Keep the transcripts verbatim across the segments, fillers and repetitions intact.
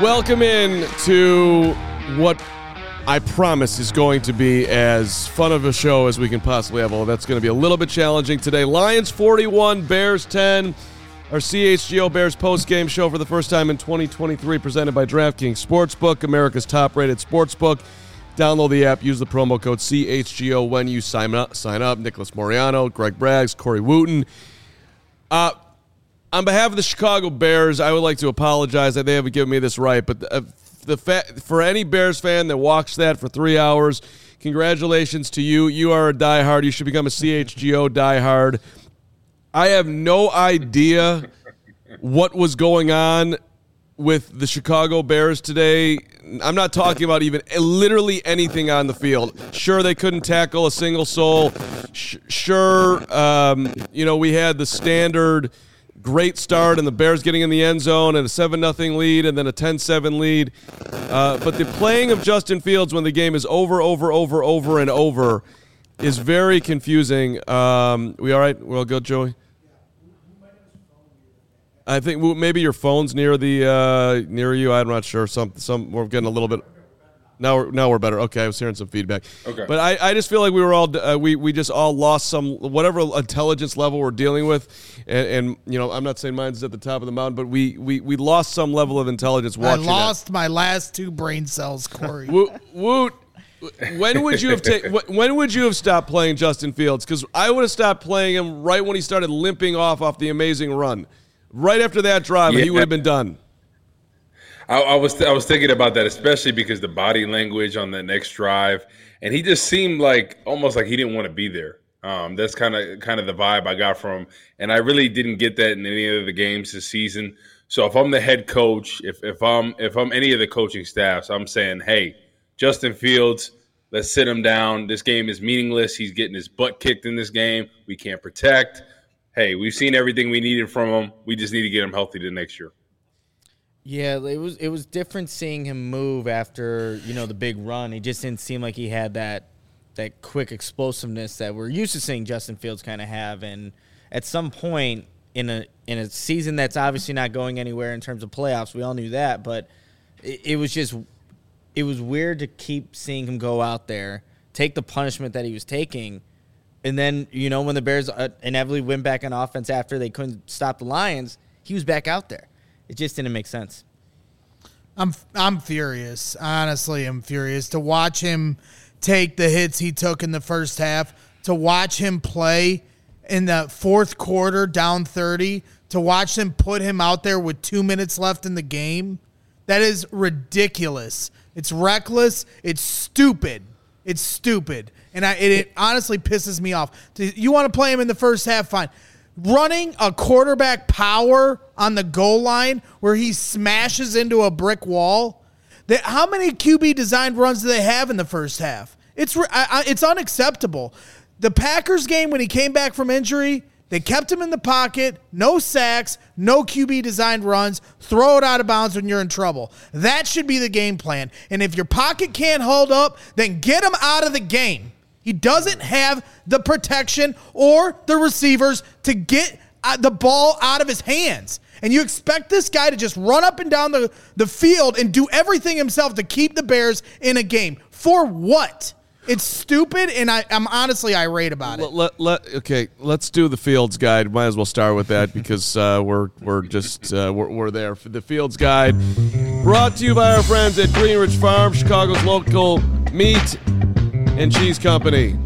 Welcome in to what I promise is going to be as fun of a show as we can possibly have. Well, that's going to be a little bit challenging today. Lions forty-one, Bears ten. Our C H G O Bears post-game show for the first time in twenty twenty-three, presented by DraftKings Sportsbook, America's top-rated sportsbook. Download the app. Use the promo code C H G O when you sign up. Sign up. Nicholas Moriano, Greg Braggs, Corey Wooten. Uh, on behalf of the Chicago Bears, I would like to apologize that they haven't given me this right, but the, uh, the fa- for any Bears fan that watched that for three hours, congratulations to you. You are a diehard. You should become a C H G O diehard. I have no idea what was going on with the Chicago Bears today. I'm not talking about even literally anything on the field. Sure, they couldn't tackle a single soul. Sure, um, you know, we had the standard great start and the Bears getting in the end zone and a seven nothing lead and then a ten seven lead. Uh, but the playing of Justin Fields when the game is over, over, over, over, and over is very confusing. Um, we all right? We're all good, Joey? I think maybe your phone's near the uh, near you. I'm not sure. Some some we're getting a little bit. Now we're now we're better. Okay, I was hearing some feedback. Okay, but I, I just feel like we were all uh, we we just all lost some whatever intelligence level we're dealing with, and, and you know I'm not saying mine's at the top of the mountain, but we we, we lost some level of intelligence watching. I lost that. my last two brain cells, Corey. Woot, Woot, when would you have ta- when would you have stopped playing Justin Fields? Because I would have stopped playing him right when he started limping off off the amazing run. Right after that drive, yeah. He would have been done. I, I was I was thinking about that, especially because the body language on the next drive, and he just seemed like almost like he didn't want to be there. Um, that's kind of kind of the vibe I got from him, and I really didn't get that in any of the games this season. So if I'm the head coach, if if I'm if I'm any of the coaching staffs, I'm saying, hey, Justin Fields, let's sit him down. This game is meaningless. He's getting his butt kicked in this game. We can't protect. Hey, we've seen everything we needed from him. We just need to get him healthy to next year. Yeah, it was it was different seeing him move after, you know, the big run. He just didn't seem like he had that that quick explosiveness that we're used to seeing Justin Fields kind of have. And at some point in a in a season that's obviously not going anywhere in terms of playoffs, we all knew that, but it, it was just it was weird to keep seeing him go out there, take the punishment that he was taking. And then, you know, when the Bears inevitably went back on offense after they couldn't stop the Lions, he was back out there. It just didn't make sense. I'm I'm furious. Honestly, I'm furious to watch him take the hits he took in the first half, to watch him play in the fourth quarter down thirty, to watch them put him out there with two minutes left in the game. That is ridiculous. It's reckless. It's stupid. It's stupid. And I, it, it honestly pisses me off. You want to play him in the first half, fine. Running a quarterback power on the goal line where he smashes into a brick wall. That, how many Q B designed runs do they have in the first half? It's I, I, it's unacceptable. The Packers game when he came back from injury, they kept him in the pocket, no sacks, no Q B designed runs, throw it out of bounds when you're in trouble. That should be the game plan. And if your pocket can't hold up, then get him out of the game. He doesn't have the protection or the receivers to get the ball out of his hands. And you expect this guy to just run up and down the, the field and do everything himself to keep the Bears in a game. For what? It's stupid, and I, I'm honestly irate about it. Let, let, okay, let's do the Fields Guide. Might as well start with that because uh, we're we're just uh, we're, we're there for the Fields Guide. Brought to you by our friends at Greenridge Farm, Chicago's local meat and cheese company,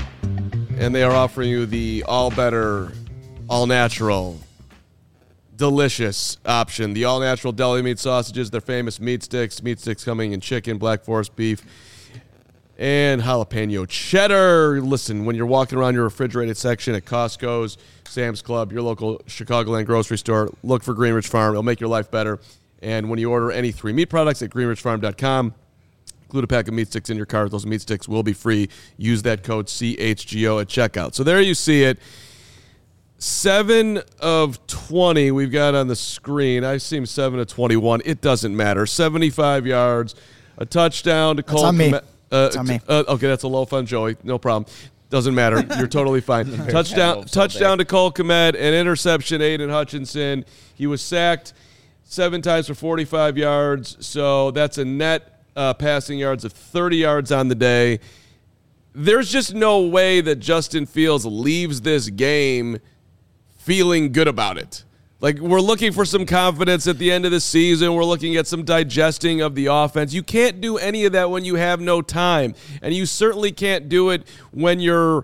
and they are offering you the all better, all natural, delicious option. The all natural deli meat sausages, their famous meat sticks. Meat sticks coming in chicken, Black Forest beef, and jalapeno cheddar. Listen, when you're walking around your refrigerated section at Costco's, Sam's Club, your local Chicagoland grocery store, look for Greenridge Farm. It'll make your life better. And when you order any three meat products at greenridge farm dot com, include a pack of meat sticks in your cart. Those meat sticks will be free. Use that code C H G O at checkout. So there you see it. seven of twenty we've got on the screen. I see him seven of twenty-one. It doesn't matter. seventy-five yards, a touchdown to Cole. That's on me. Uh, that's on me. Uh, okay, that's a low fun, Joey. No problem. Doesn't matter. You're totally fine. touchdown touchdown to Cole Kmet, an interception, Aiden Hutchinson. He was sacked seven times for forty-five yards. So that's a net uh, passing yards of thirty yards on the day. There's just no way that Justin Fields leaves this game feeling good about it. Like, we're looking for some confidence at the end of the season. We're looking at some digesting of the offense. You can't do any of that when you have no time. And you certainly can't do it when you're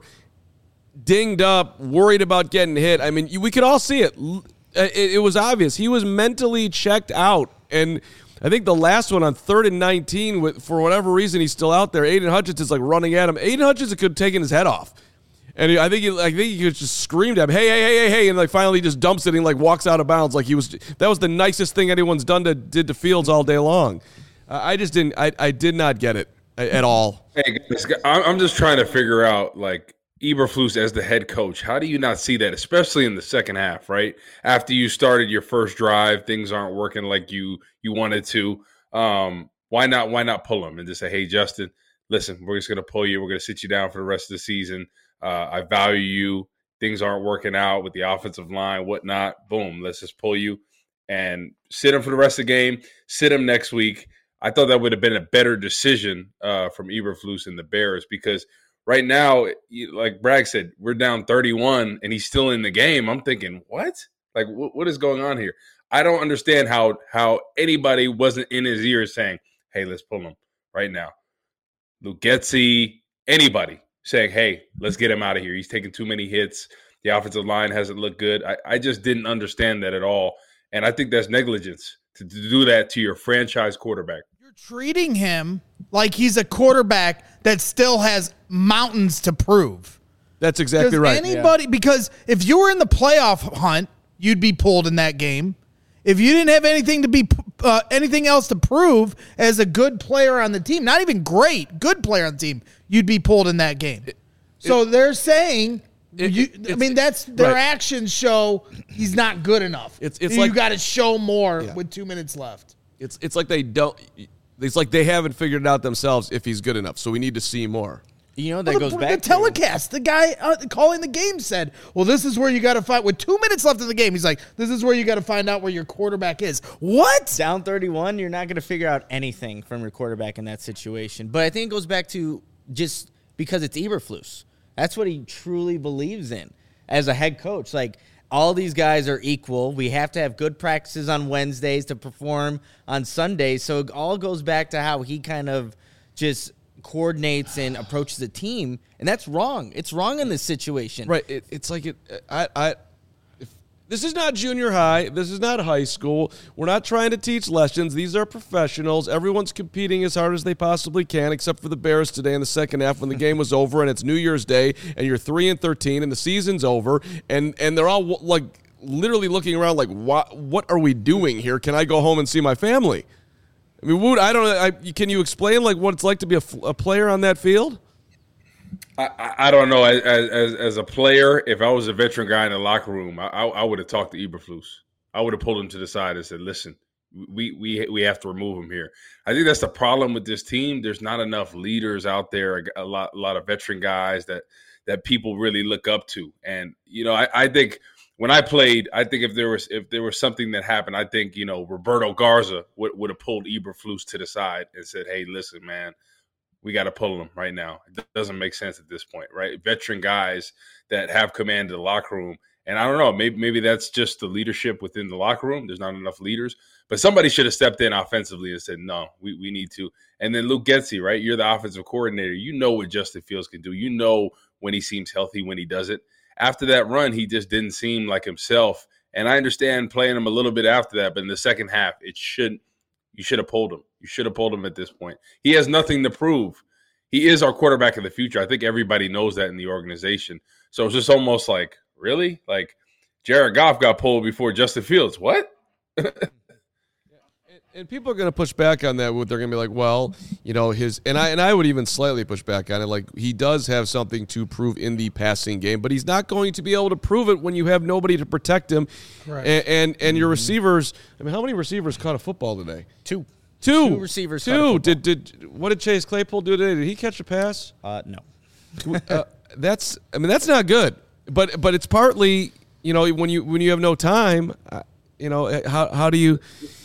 dinged up, worried about getting hit. I mean, we could all see it. It, it was obvious. He was mentally checked out. And I think the last one on third and nineteen, with, for whatever reason, he's still out there. Aiden Hutchins is like running at him. Aiden Hutchins could have taken his head off. And I think he, I think he just screamed at him, hey, hey, hey, hey, hey, and like finally just dumps it and like walks out of bounds. Like he was, that was the nicest thing anyone's done to did to Fields all day long. Uh, I just didn't, I, I did not get it at all. Hey, guys, I'm just trying to figure out, like, Eberflus as the head coach. How do you not see that, especially in the second half, right? After you started your first drive, things aren't working like you you wanted to. Um, why not? Why not pull him and just say, hey, Justin, listen, we're just going to pull you. We're going to sit you down for the rest of the season. Uh, I value you. Things aren't working out with the offensive line, whatnot. Boom, let's just pull you and sit him for the rest of the game. Sit him next week. I thought that would have been a better decision uh, from Eberflus and the Bears, because right now, like Bragg said, we're down thirty-one and he's still in the game. I'm thinking, what? Like, w- what is going on here? I don't understand how how anybody wasn't in his ear saying, hey, let's pull him right now. Luke Getsy, anybody saying, hey, let's get him out of here. He's taking too many hits. The offensive line hasn't looked good. I, I just didn't understand that at all. And I think that's negligence to, to do that to your franchise quarterback. You're treating him like he's a quarterback that still has mountains to prove. That's exactly Does right. Anybody, yeah. Because if you were in the playoff hunt, you'd be pulled in that game. If you didn't have anything to be uh, anything else to prove as a good player on the team, not even great, good player on the team, you'd be pulled in that game. It, so it, they're saying, it, you, I mean, that's their right. actions show he's not good enough. It's it's you like, got to show more yeah. with two minutes left. It's it's like they don't. It's like they haven't figured it out themselves if he's good enough. So we need to see more. You know, that well, goes the, back the telecast. The guy uh, calling the game said, well, this is where you got to find, with two minutes left in the game, he's like, this is where you got to find out where your quarterback is. What? Down thirty-one, you're not going to figure out anything from your quarterback in that situation. But I think it goes back to just because it's Eberflus. That's what he truly believes in as a head coach. Like, all these guys are equal. We have to have good practices on Wednesdays to perform on Sundays. So it all goes back to how he kind of just coordinates and approaches the team, and that's wrong. It's wrong in this situation. Right. It, it's like it. I. I. If, this is not junior high. This is not high school. We're not trying to teach lessons. These are professionals. Everyone's competing as hard as they possibly can, except for the Bears today in the second half when the game was over and it's New Year's Day and you're three and thirteen and the season's over and and they're all like literally looking around like, what? What are we doing here? Can I go home and see my family? I mean, Wood, I don't know. I, can you explain like what it's like to be a, a player on that field? I, I don't know. As, as as a player, if I was a veteran guy in the locker room, I, I would have talked to Eberflus. I would have pulled him to the side and said, "Listen, we we we have to remove him here." I think that's the problem with this team. There's not enough leaders out there. A lot a lot of veteran guys that that people really look up to. And you know, I, I think. When I played, I think if there was if there was something that happened, I think, you know, Roberto Garza would, would have pulled Eberflus to the side and said, hey, listen, man, we got to pull him right now. It doesn't make sense at this point, right? Veteran guys that have command of the locker room. And I don't know, maybe maybe that's just the leadership within the locker room. There's not enough leaders. But somebody should have stepped in offensively and said, no, we, we need to. And then Luke Getsy, right? You're the offensive coordinator. You know what Justin Fields can do. You know when he seems healthy, when he doesn't. After that run, he just didn't seem like himself. And I understand playing him a little bit after that, but in the second half, it should you should have pulled him. You should have pulled him at this point. He has nothing to prove. He is our quarterback of the future. I think everybody knows that in the organization. So it's just almost like, really? Like, Jared Goff got pulled before Justin Fields. What? And people are going to push back on that. They're going to be like, well, you know, his – and I and I would even slightly push back on it. Like, he does have something to prove in the passing game, but he's not going to be able to prove it when you have nobody to protect him. Right. And, and, and your receivers – I mean, how many receivers caught a football today? Two. Two. Two receivers Two. Did, did, what did Chase Claypool do today? Did he catch a pass? Uh, no. uh, that's – I mean, that's not good. But but it's partly, you know, when you when you have no time, uh, you know, how how do you –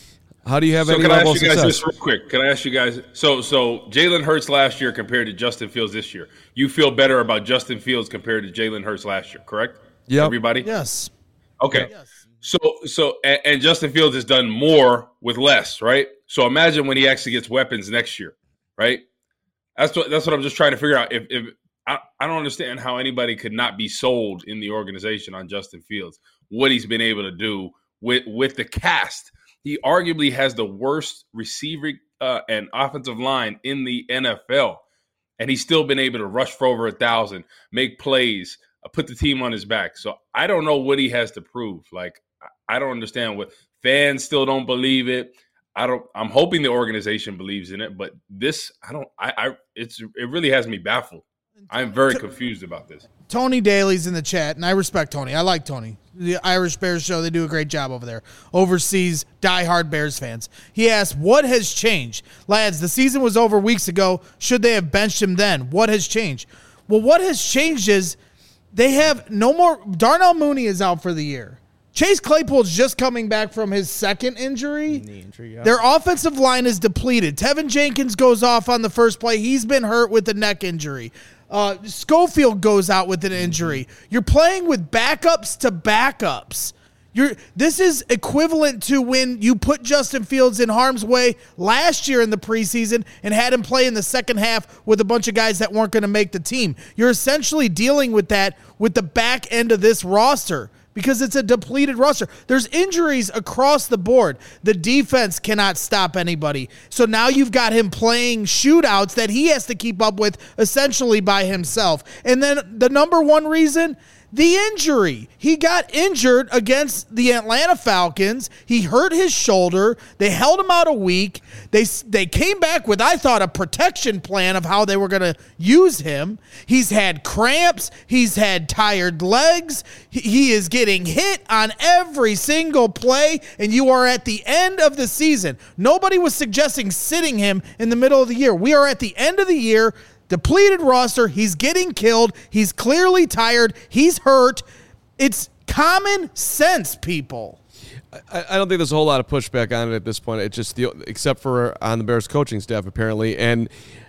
How do you have so any can I level of ask you success? guys this real quick? Can I ask you guys? So, so Jalen Hurts last year compared to Justin Fields this year, you feel better about Justin Fields compared to Jalen Hurts last year, correct? Yeah. Everybody. Yes. Okay. Yes. So, so, and, and Justin Fields has done more with less, right? So imagine when he actually gets weapons next year, right? That's what that's what I'm just trying to figure out. If, if I, I don't understand how anybody could not be sold in the organization on Justin Fields, what he's been able to do with with the cast. He arguably has the worst receiving uh, and offensive line in the N F L, and he's still been able to rush for over a thousand, make plays, uh, put the team on his back. So I don't know what he has to prove. Like, I don't understand what fans still don't believe it. I don't. I'm hoping the organization believes in it, but this, I don't. I, I it's it really has me baffled. I'm very confused about this. Tony Daly's in the chat, and I respect Tony. I like Tony. The Irish Bears show, they do a great job over there. Oversees diehard Bears fans. He asked, what has changed? Lads, the season was over weeks ago. Should they have benched him then? What has changed? Well, what has changed is they have no more. Darnell Mooney is out for the year. Chase Claypool's just coming back from his second injury. Knee injury, yeah. Their offensive line is depleted. Tevin Jenkins goes off on the first play. He's been hurt with a neck injury. Uh, Schofield goes out with an injury. You're playing with backups to backups. You're, this is equivalent to when you put Justin Fields in harm's way last year in the preseason and had him play in the second half with a bunch of guys that weren't going to make the team. You're essentially dealing with that with the back end of this roster, because it's a depleted roster. There's injuries across the board. The defense cannot stop anybody. So now you've got him playing shootouts that he has to keep up with essentially by himself. And then the number one reason, the injury. He got injured against the Atlanta Falcons. He hurt his shoulder. They held him out a week. They they came back with, I thought, a protection plan of how they were going to use him. He's had cramps. He's had tired legs. He, he is getting hit on every single play, and you are at the end of the season. Nobody was suggesting sitting him in the middle of the year. We are at the end of the year. Depleted roster. He's getting killed. He's clearly tired. He's hurt. It's common sense, people. I, I don't think there's a whole lot of pushback on it at this point. It's just the, except for on the Bears coaching staff apparently, and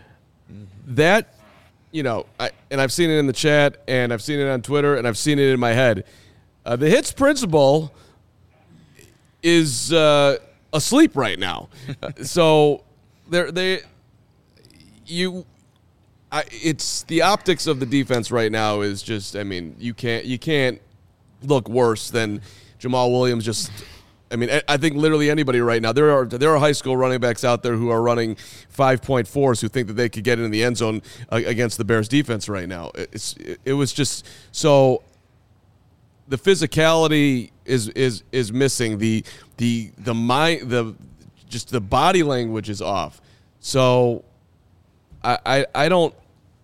that, you know, I, and I've seen it in the chat, and I've seen it on Twitter, and I've seen it in my head. Uh, the Hits principal is uh, asleep right now, uh, so they're they you. I, it's the optics of the defense right now is just, I mean, you can't you can't look worse than Jamal Williams. Just, I mean, I, I think literally anybody right now. There are there are high school running backs out there who are running five point fours who think that they could get in the end zone uh, against the Bears defense right now. It's it, it was just so. The physicality is is is missing. The the the mind the just the body language is off. So I I, I don't.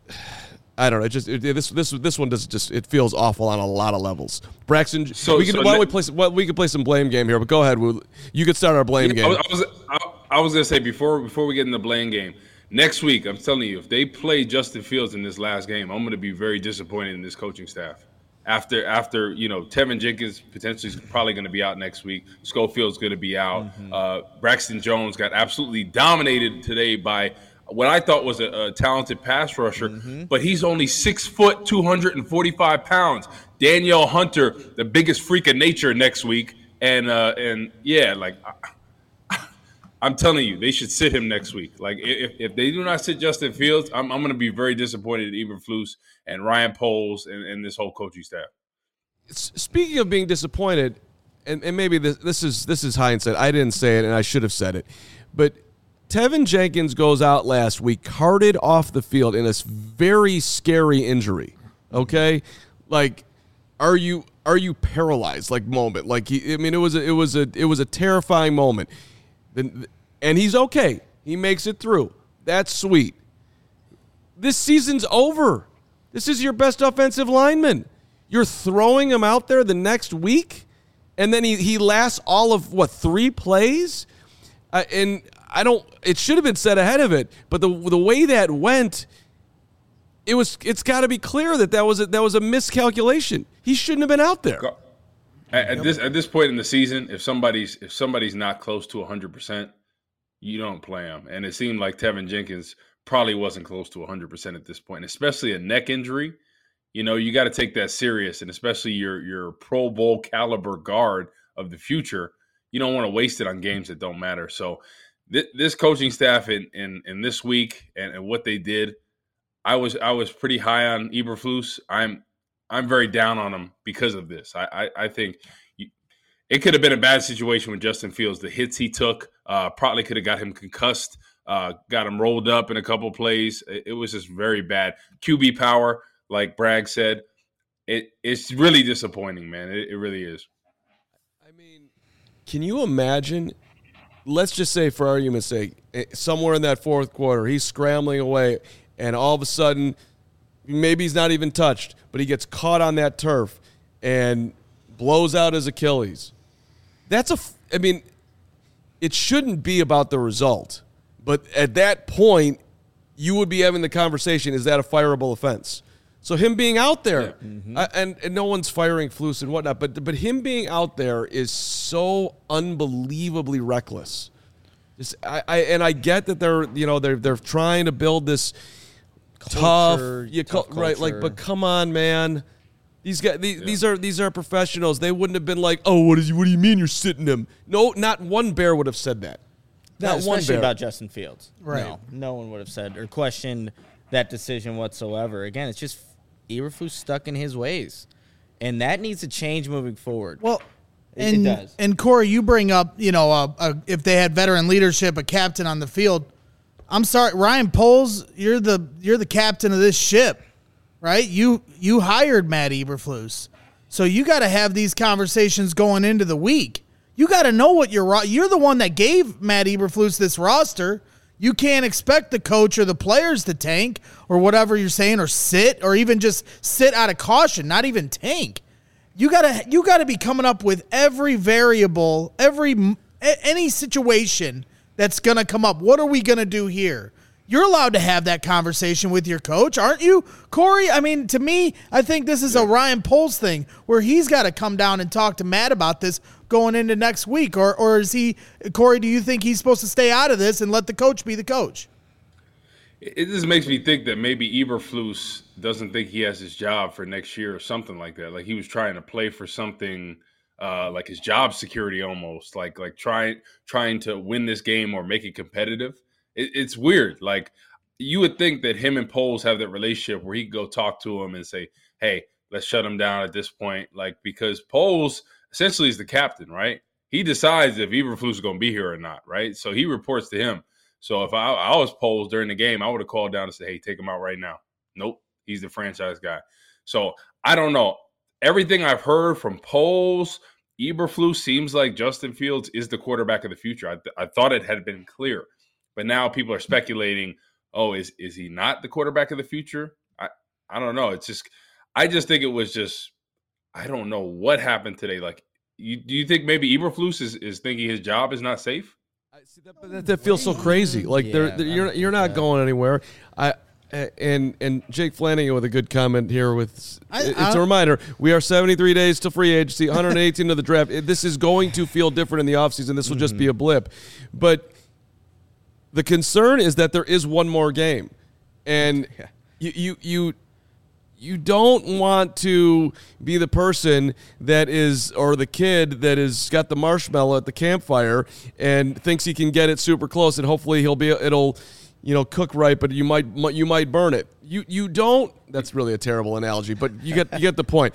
I don't know. It just it, this this this one does just it feels awful on a lot of levels. Braxton, so, we can, so why don't we play some? Well, we can play some blame game here. But go ahead, we'll, you can start our blame yeah, game. I was I was, I, I was gonna say before before we get in the blame game next week. I'm telling you, if they play Justin Fields in this last game, I'm gonna be very disappointed in this coaching staff. After after you know, Tevin Jenkins potentially is probably going to be out next week. Schofield's going to be out. Mm-hmm. Uh, Braxton Jones got absolutely dominated today by what I thought was a, a talented pass rusher, mm-hmm. but he's only six foot, two hundred forty-five pounds. Danielle Hunter, the biggest freak of nature next week. And, uh, and yeah, like, I, I'm telling you, they should sit him next week. Like, if, if they do not sit Justin Fields, I'm, I'm going to be very disappointed in Eberflus and Ryan Poles and, and this whole coaching staff. Speaking of being disappointed, and, and maybe this, this is this is hindsight. I didn't say it, and I should have said it. But Tevin Jenkins goes out last week, carted off the field in a very scary injury. Okay, like, are you are you paralyzed? Like moment, like he. I mean, it was a, it was a it was a terrifying moment. Then, and he's okay. He makes it through. That's sweet. This season's over. This is your best offensive lineman. You're throwing him out there the next week, and then he he lasts all of what three plays, uh, and. I don't. It should have been said ahead of it, but the the way that went, it was. It's got to be clear that that was a, that was a miscalculation. He shouldn't have been out there. At, at this at this point in the season, if somebody's if somebody's not close to one hundred percent, you don't play them. And it seemed like Tevin Jenkins probably wasn't close to one hundred percent at this point, especially a neck injury. You know, you got to take that serious, and especially your your Pro Bowl caliber guard of the future, you don't want to waste it on games that don't matter. So th- this coaching staff in, in, in this week and, and what they did, I was I was pretty high on Eberflus. I'm I'm very down on him because of this. I I, I think you, it could have been a bad situation with Justin Fields. The hits he took uh, probably could have got him concussed, uh, got him rolled up in a couple plays. It, it was just very bad. Q B power. Like Bragg said, it it's really disappointing, man. It, it really is. I mean, can you imagine? Let's just say, for argument's sake, somewhere in that fourth quarter, he's scrambling away, and all of a sudden, maybe he's not even touched, but he gets caught on that turf and blows out his Achilles. That's a. I mean, it shouldn't be about the result, but at that point, you would be having the conversation: is that a fireable offense? So him being out there, yeah. mm-hmm. uh, and, and no one's firing Flus and whatnot, but but him being out there is so unbelievably reckless. Just, I, I and I get that they're you know they're they're trying to build this culture, tough, you tough co- right? Like, but come on, man. These guys, these, yeah. these are these are professionals. They wouldn't have been like, oh, what is what do you mean you're sitting him? No, not one Bear would have said that. Not, not one Bear about Justin Fields. Right? No, no one would have said or questioned that decision whatsoever. Again, it's just Eberflus stuck in his ways, and that needs to change moving forward. Well, it, and, it does. And Corey, you bring up, you know, uh, uh, if they had veteran leadership, a captain on the field. I'm sorry, Ryan Poles, you're the you're the captain of this ship, right? You you hired Matt Eberflus, so you got to have these conversations going into the week. You got to know what you're. You're the one that gave Matt Eberflus this roster. You can't expect the coach or the players to tank or whatever you're saying, or sit, or even just sit out of caution, not even tank. You gotta, you gotta be coming up with every variable, every any situation that's gonna come up. What are we gonna do here? You're allowed to have that conversation with your coach, aren't you, Corey? I mean, to me, I think this is a Ryan Poles thing where he's got to come down and talk to Matt about this going into next week. Or or is he, Corey, do you think he's supposed to stay out of this and let the coach be the coach? It just makes me think that maybe Eberflus doesn't think he has his job for next year or something like that. Like he was trying to play for something uh, like his job security almost, like like trying trying to win this game or make it competitive. It's weird. Like you would think that him and Poles have that relationship where he could go talk to him and say, hey, let's shut him down at this point. Like, because Poles essentially is the captain, right? He decides if Eberflus is going to be here or not, right? So he reports to him. So if I, I was Poles during the game, I would have called down and said, hey, take him out right now. Nope. He's the franchise guy. So I don't know. Everything I've heard from Poles, Eberflus seems like Justin Fields is the quarterback of the future. I, th- I thought it had been clear. But now people are speculating, oh, is is he not the quarterback of the future? I, I don't know. It's just – I just think it was just – I don't know what happened today. Like, you, do you think maybe Eberflus is, is thinking his job is not safe? I see that, but that, that feels so crazy. Like, yeah, they're, they're, you're you're not that. going anywhere. I and and Jake Flanagan with a good comment here with – it's I, a reminder, we are seventy-three days to free agency, one hundred eighteen to the draft. This is going to feel different in the offseason. This will mm-hmm. just be a blip. But – the concern is that there is one more game, and yeah. you, you you you don't want to be the person that is, or the kid that is got the marshmallow at the campfire and thinks he can get it super close, and hopefully he'll be it'll you know cook right, but you might you might burn it. You you don't. That's really a terrible analogy, but you get you get the point.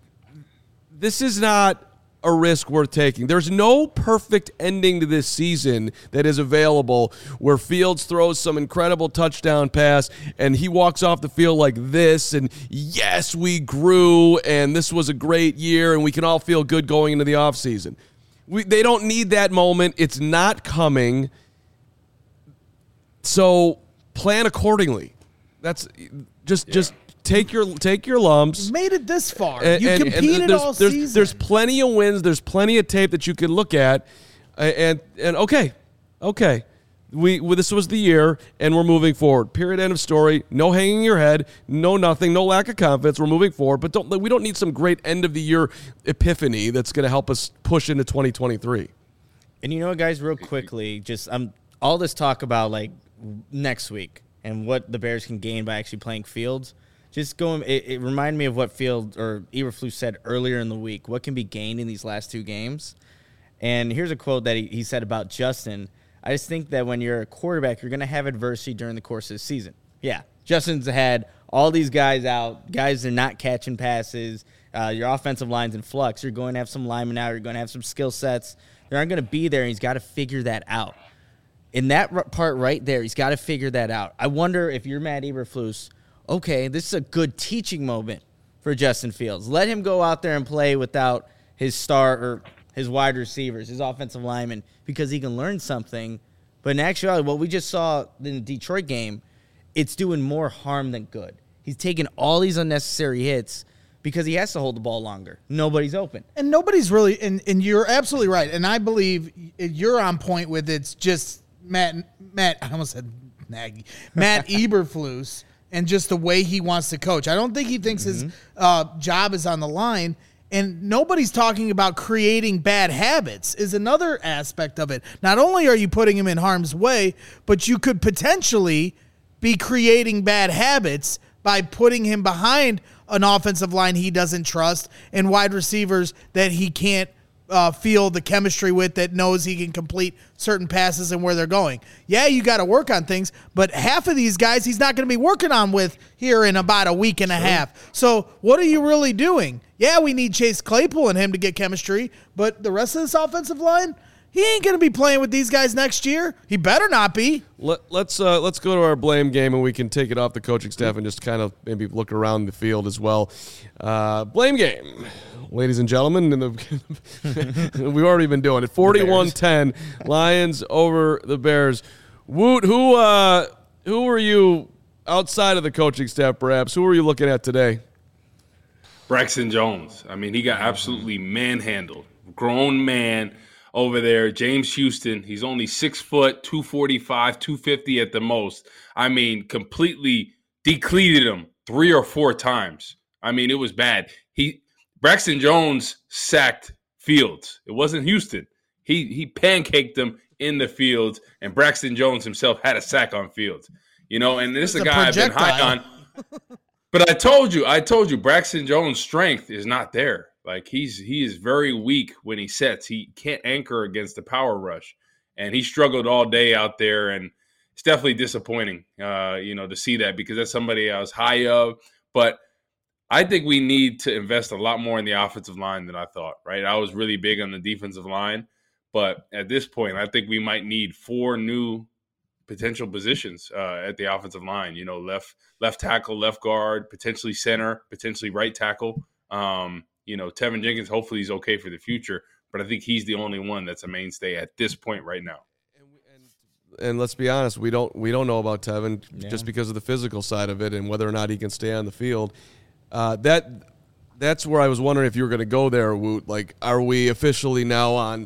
This is not a risk worth taking. There's no perfect ending to this season that is available where Fields throws some incredible touchdown pass and he walks off the field like this and yes, we grew and this was a great year and we can all feel good going into the offseason. We, they don't need that moment. It's not coming. So plan accordingly. That's just yeah. just Take your take your lumps. You made it this far. And, you and, competed and there's, all there's, season. There's plenty of wins. There's plenty of tape that you can look at. And, and okay, okay. we well, this was the year, and we're moving forward. Period. End of story. No hanging your head. No nothing. No lack of confidence. We're moving forward. But don't we don't need some great end of the year epiphany that's going to help us push into twenty twenty-three. And you know what, guys? Real quickly, just um, all this talk about like next week and what the Bears can gain by actually playing Fields. Just going, it, it reminded me of what Field or Eberflus said earlier in the week. What can be gained in these last two games? And here's a quote that he, he said about Justin. I just think that when you're a quarterback, you're going to have adversity during the course of the season. Yeah, Justin's had all these guys out. Guys are not catching passes. Uh, your offensive line's in flux. You're going to have some linemen out. You're going to have some skill sets. They aren't going to be there, and he's got to figure that out. In that r- part right there, he's got to figure that out. I wonder if you're Matt Eberflus, okay, this is a good teaching moment for Justin Fields. Let him go out there and play without his star or his wide receivers, his offensive linemen, because he can learn something. But in actuality, what we just saw in the Detroit game, it's doing more harm than good. He's taking all these unnecessary hits because he has to hold the ball longer. Nobody's open. And nobody's really, and, and you're absolutely right. And I believe you're on point with it's just Matt, Matt, I almost said Nagy, Matt Eberflus. And just the way he wants to coach. I don't think he thinks mm-hmm. his uh, job is on the line. And nobody's talking about creating bad habits is another aspect of it. Not only are you putting him in harm's way, but you could potentially be creating bad habits by putting him behind an offensive line he doesn't trust and wide receivers that he can't Uh, feel the chemistry with, that knows he can complete certain passes and where they're going. Yeah, you got to work on things, but half of these guys he's not going to be working on with here in about a week and a half. So what are you really doing? Yeah, we need Chase Claypool and him to get chemistry, but the rest of this offensive line, he ain't going to be playing with these guys next year. He better not be. Let, let's uh, let's go to our blame game, and we can take it off the coaching staff and just kind of maybe look around the field as well. Uh, blame game. Ladies and gentlemen, in the we've already been doing it. forty-one ten, Lions over the Bears. Woot, who uh, who were you outside of the coaching staff, perhaps? Who were you looking at today? Braxton Jones. I mean, he got absolutely manhandled. Grown man over there. James Houston. He's only six foot, two forty-five, two fifty at the most. I mean, completely decleated him three or four times. I mean, it was bad. He Braxton Jones sacked Fields. It wasn't Houston. He he pancaked him in the field, and Braxton Jones himself had a sack on Fields. You know, and this is a guy I've been high on. But I told you, I told you, Braxton Jones' strength is not there. Like he's he is very weak when he sets. He can't anchor against the power rush, and he struggled all day out there. And it's definitely disappointing, uh, you know, to see that because that's somebody I was high of. But I think we need to invest a lot more in the offensive line than I thought, right? I was really big on the defensive line, but at this point, I think we might need four new potential positions uh, at the offensive line. You know, left left tackle, left guard, potentially center, potentially right tackle. Um, you know, Tevin Jenkins, hopefully he's okay for the future, but I think he's the only one that's a mainstay at this point right now. And let's be honest, we don't we don't know about Tevin yeah. just because of the physical side of it and whether or not he can stay on the field. Uh, that that's where I was wondering if you were going to go there, Woot. Like, are we officially now on?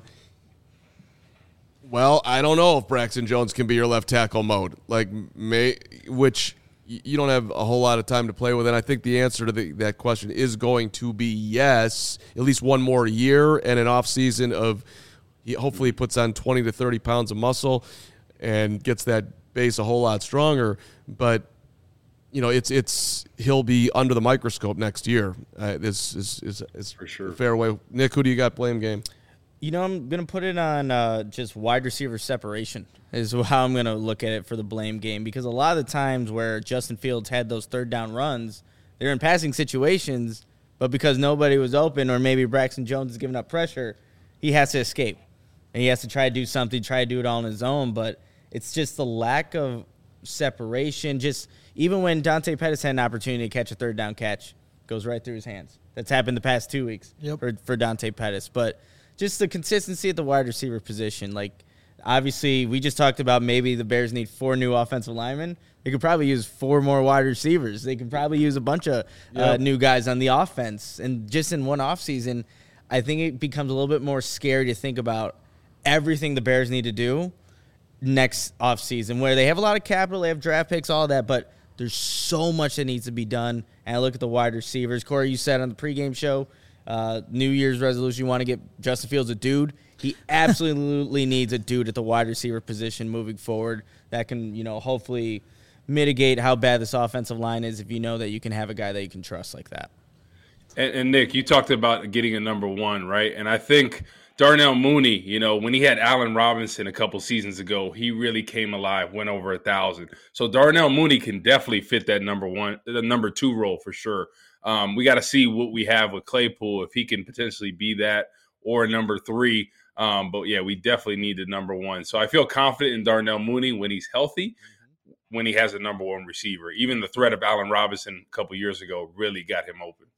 Well, I don't know if Braxton Jones can be your left tackle mode. Like, may which you don't have a whole lot of time to play with. And I think the answer to the, that question is going to be yes, at least one more year and an off season of. He, hopefully, he puts on twenty to thirty pounds of muscle and gets that base a whole lot stronger. But you know, it's it's he'll be under the microscope next year. Uh, this is is, is for sure. A fair way. Nick, who do you got blame game? You know, I'm going to put it on uh, just wide receiver separation is how I'm going to look at it for the blame game, because a lot of the times where Justin Fields had those third down runs, they're in passing situations, but because nobody was open or maybe Braxton Jones is giving up pressure, he has to escape. And he has to try to do something, try to do it all on his own, but it's just the lack of separation. Just even when Dante Pettis had an opportunity to catch a third down catch, goes right through his hands. That's happened the past two weeks yep. for, for Dante Pettis. But just the consistency at the wide receiver position. Like, obviously, we just talked about maybe the Bears need four new offensive linemen. They could probably use four more wide receivers. They could probably use a bunch of yep. uh, new guys on the offense. And just in one offseason, I think it becomes a little bit more scary to think about everything the Bears need to do next offseason, where they have a lot of capital, they have draft picks, all that, but there's so much that needs to be done. And I look at the wide receivers. Corey, you said on the pregame show, uh, New Year's resolution, you want to get Justin Fields a dude. He absolutely needs a dude at the wide receiver position moving forward that can, you know, hopefully mitigate how bad this offensive line is if you know that you can have a guy that you can trust like that. And, and Nick, you talked about getting a number one, right? And I think Darnell Mooney, you know, when he had Allen Robinson a couple seasons ago, he really came alive, went over a thousand. So Darnell Mooney can definitely fit that number one, the number two role for sure. Um, we got to see what we have with Claypool, if he can potentially be that or number three. Um, but yeah, we definitely need the number one. So I feel confident in Darnell Mooney when he's healthy, when he has a number one receiver. Even the threat of Allen Robinson a couple years ago really got him open.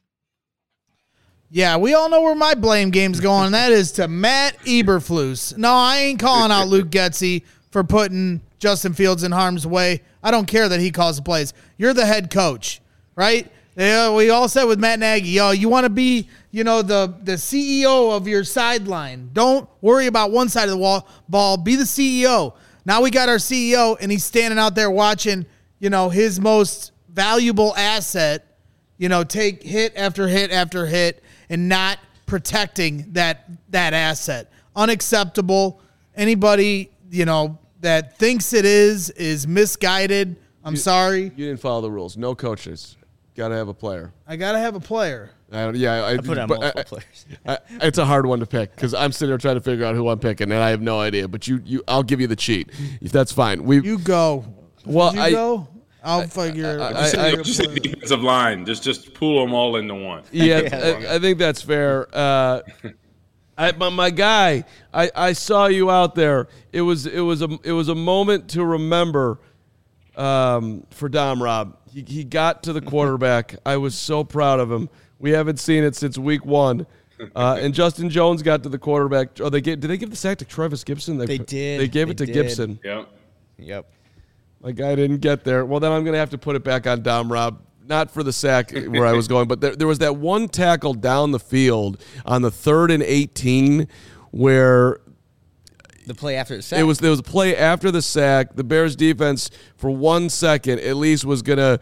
Yeah, we all know where my blame game's going, and that is to Matt Eberflus. No, I ain't calling out Luke Getsy for putting Justin Fields in harm's way. I don't care that he calls the plays. You're the head coach, right? Yeah, we all said with Matt Nagy, yo, you want to be, you know, the, the C E O of your sideline. Don't worry about one side of the wall, ball. Be the C E O. Now we got our C E O, and he's standing out there watching, you know, his most valuable asset, you know, take hit after hit after hit and not protecting that that asset. Unacceptable. Anybody, you know, that thinks it is is misguided. I'm you, sorry. You didn't follow the rules. No coaches. Got to have a player. I got to have a player. I, yeah, I, I put on multiple I, players. I, it's a hard one to pick because I'm sitting there trying to figure out who I'm picking, and I have no idea. But you, you, I'll give you the cheat if that's fine. We, you go. Well, you I go. I'll figure. I, I, Just, I, just say defensive line. Just just pull them all into one. Yeah, I, I think that's fair. Uh, I, my, my guy, I, I saw you out there. It was it was a it was a moment to remember um, for Dom Rob. He he got to the quarterback. I was so proud of him. We haven't seen it since week one. Uh, and Justin Jones got to the quarterback. Oh, they gave, did they give the sack to Travis Gibson? They, They did. They gave They it to did. Gibson. Yep. Yep. My guy didn't get there. Well, then I'm going to have to put it back on Dom Rob. Not for the sack where I was going, but there, there was that one tackle down the field on the third and eighteen where The play after the sack. it was there was a play after the sack. The Bears defense for one second at least was going to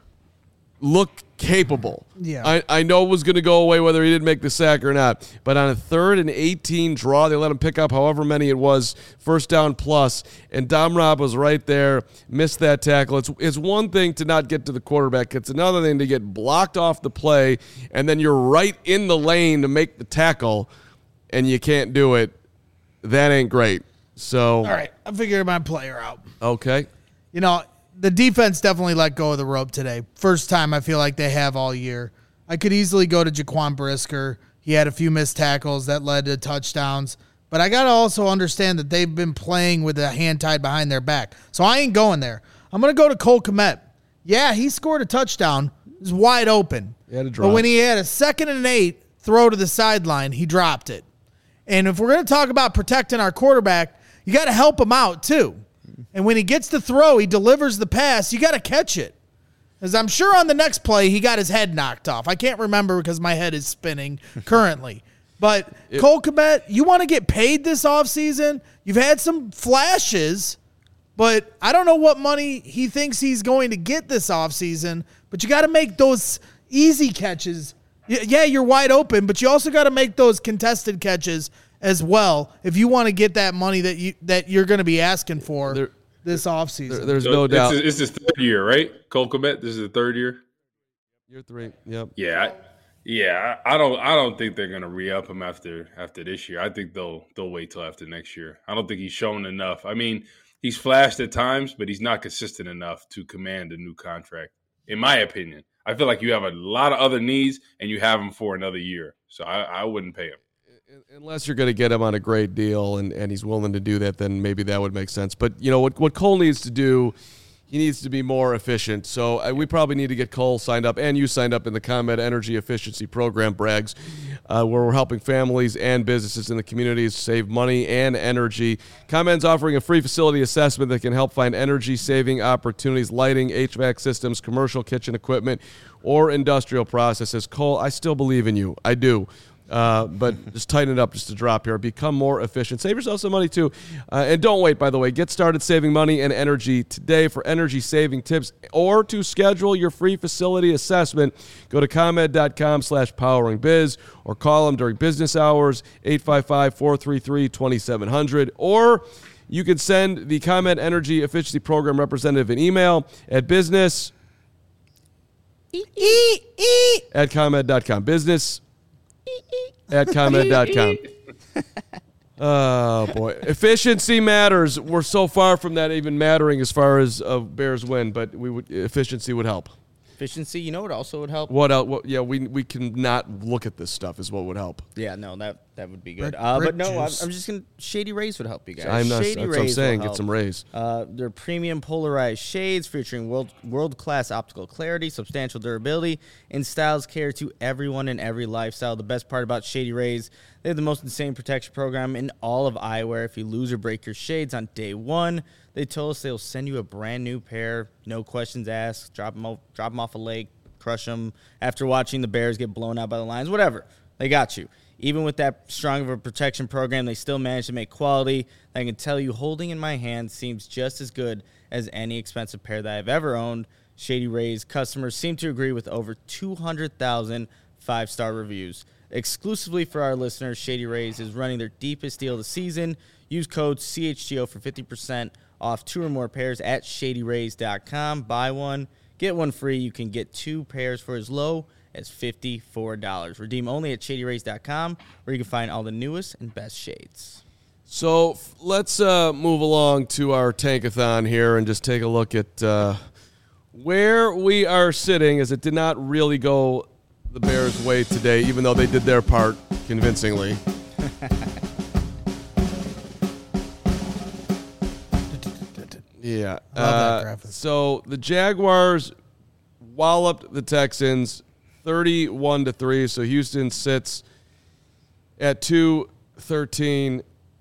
look capable. Yeah. I, I know it was going to go away whether he didn't make the sack or not. But on a third and eighteen draw, they let him pick up however many it was, first down plus, and Dom Rob was right there, missed that tackle. It's, it's one thing to not get to the quarterback. It's another thing to get blocked off the play, and then you're right in the lane to make the tackle, and you can't do it. That ain't great. So, all right, I figured my player out. okay. You know, the defense definitely let go of the rope today. First time I feel like they have all year. I could easily go to Jaquan Brisker. He had a few missed tackles that led to touchdowns. But I got to also understand that they've been playing with a hand tied behind their back. So I ain't going there. I'm going to go to Cole Kmet. Yeah, he scored a touchdown. It was wide open. He had a drop. But when he had a second and eight throw to the sideline, he dropped it. And if we're going to talk about protecting our quarterback, you got to help him out too. And when he gets the throw, he delivers the pass, you got to catch it. As I'm sure on the next play, he got his head knocked off. I can't remember because my head is spinning currently. But it, Cole Kmet, you want to get paid this offseason? You've had some flashes, but I don't know what money he thinks he's going to get this offseason. But you got to make those easy catches. Yeah, you're wide open, but you also got to make those contested catches as well if you want to get that money that you that you're going to be asking for there, this offseason. There, there's so no it's, doubt. It's his third year, right? Cole Kmet, this is the third year. Year three. Yep. Yeah, I, yeah. I don't. I don't think they're going to re-up him after after this year. I think they'll they'll wait till after next year. I don't think he's shown enough. I mean, he's flashed at times, but he's not consistent enough to command a new contract, in my opinion. I feel like you have a lot of other needs, and you have him for another year. So I, I wouldn't pay him. Unless you're going to get him on a great deal and, and he's willing to do that, then maybe that would make sense. But, you know, what, what Cole needs to do, he needs to be more efficient. So uh, we probably need to get Cole signed up and you signed up in the ComEd Energy Efficiency Program, Braggs, uh, where we're helping families and businesses in the communities save money and energy. ComEd's offering a free facility assessment that can help find energy-saving opportunities, lighting, H V A C systems, commercial kitchen equipment, or industrial processes. Cole, I still believe in you. I do. Uh, but just tighten it up just a drop here. Become more efficient. Save yourself some money, too. Uh, and don't wait, by the way. Get started saving money and energy today. For energy-saving tips or to schedule your free facility assessment, go to ComEd.com slash poweringbiz or call them during business hours, eight five five, four three three, two seven zero zero. Or you can send the ComEd Energy Efficiency Program representative an email at business at ComEd dot com. Business at ComEd dot com. Oh, boy. Efficiency matters. We're so far from that even mattering as far as a Bears win, but we would efficiency would help. Efficiency, you know what also would help? What else? What, yeah, we we can not look at this stuff is what would help. Yeah, no, that that would be good. Brick- Uh, but brick no, I'm, juice. I'm just going to – Shady Rays would help you guys. I'm not, Shady that's what I'm Rays saying. will Get help. some rays. Uh, they're premium polarized shades featuring world world-class optical clarity, substantial durability, and styles cater to everyone in every lifestyle. The best part about Shady Rays, they have the most insane protection program in all of eyewear. If you lose or break your shades on day one, they told us they'll send you a brand new pair, no questions asked, drop them, off, drop them off a lake, crush them after watching the Bears get blown out by the Lions, whatever. They got you. Even with that strong of a protection program, they still managed to make quality. I can tell you, holding in my hand seems just as good as any expensive pair that I've ever owned. Shady Rays customers seem to agree with over two hundred thousand five-star reviews. Exclusively for our listeners, Shady Rays is running their deepest deal of the season. Use code C H G O for fifty percent off two or more pairs at shady rays dot com. Buy one, get one free. You can get two pairs for as low as fifty-four dollars. Redeem only at shady rays dot com, where you can find all the newest and best shades. So f- let's uh, move along to our tankathon here and just take a look at uh, where we are sitting, as it did not really go the Bears' way today, even though they did their part convincingly. Yeah. I love that Uh, graphic. so the Jaguars walloped the Texans thirty-one to three. So Houston sits at two thirteen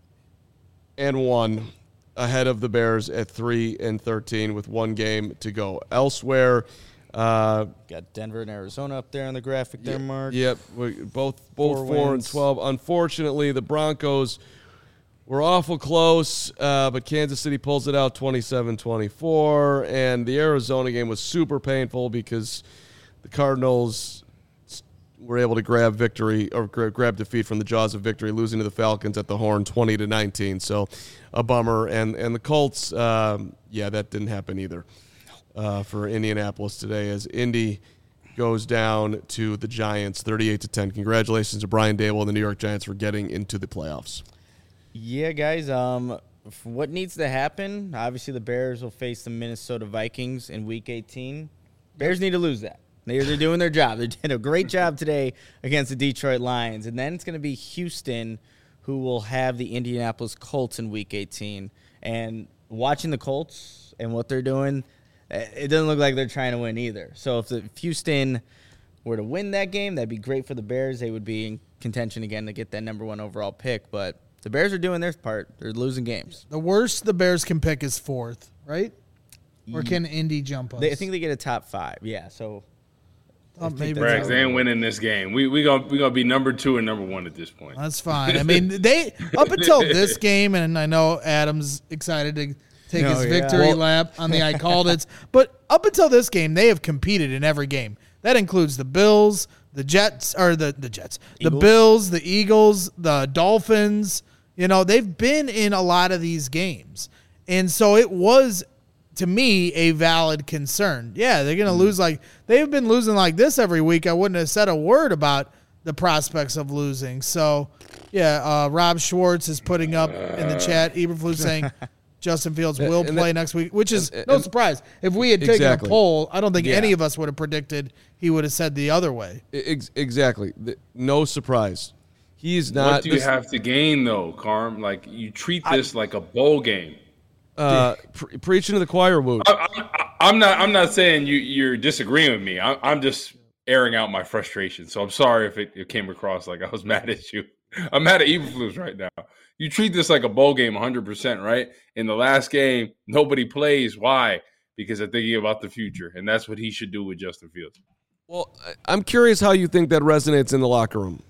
and one, ahead of the Bears at three and thirteen with one game to go. Elsewhere, uh, Got Denver and Arizona up there on the graphic there, Mark. Yep, we, both both Four four, and wins. twelve. Unfortunately, the Broncos were awful close, uh, but Kansas City pulls it out twenty-seven twenty-four, and the Arizona game was super painful because the Cardinals were able to grab victory or gra- grab defeat from the jaws of victory, losing to the Falcons at the Horn twenty to nineteen. So a bummer. And and the Colts, um, yeah, that didn't happen either uh, for Indianapolis today, as Indy goes down to the Giants thirty-eight to ten. Congratulations to Brian Daboll and the New York Giants for getting into the playoffs. Yeah, guys. Um, f- what needs to happen? Obviously, the Bears will face the Minnesota Vikings in Week eighteen. Bears need to lose that. They're, they're doing their job. They did a great job today against the Detroit Lions. And then it's going to be Houston who will have the Indianapolis Colts in Week eighteen. And watching the Colts and what they're doing, it doesn't look like they're trying to win either. So if, the, if Houston were to win that game, that'd be great for the Bears. They would be in contention again to get that number one overall pick. But the Bears are doing their part. They're losing games. The worst the Bears can pick is fourth, right? Or can Indy jump us? They, I think they get a top five. Yeah, so Oh, maybe Brags, that's, they ain't winning this game. We we gonna we gonna be number two and number one at this point. that's fine. I mean, they up until this game, and I know Adam's excited to take Oh, his yeah. victory Well- lap on the I called it. But up until this game, they have competed in every game. That includes the Bills, the Jets, or the the Jets, the Eagles. Bills, the Eagles, the Dolphins. You know, they've been in a lot of these games, and so it was, to me, a valid concern. Yeah, they're going to lose like they've been losing like this every week. I wouldn't have said a word about the prospects of losing. So, yeah, uh, Rob Schwartz is putting up in the chat, Eberflus saying Justin Fields will And play that- next week, which is and- no and- surprise. If we had taken Exactly. a poll, I don't think Yeah. any of us would have predicted he would have said the other way. Ex- exactly. The- No surprise. He's not. What do you this- have to gain though, Carm? Like you treat this like a bowl game. uh, pre- preaching to the choir, Woot. I, I, I'm not. I'm not saying you you're disagreeing with me. I, I'm just airing out my frustration. So I'm sorry if it, it came across like I was mad at you. I'm mad at Eberflus right now. You treat this like a bowl game, one hundred percent, right? In the last game, nobody plays. Why? Because they're thinking about the future, and that's what he should do with Justin Fields. Well, I- I'm curious how you think that resonates in the locker room.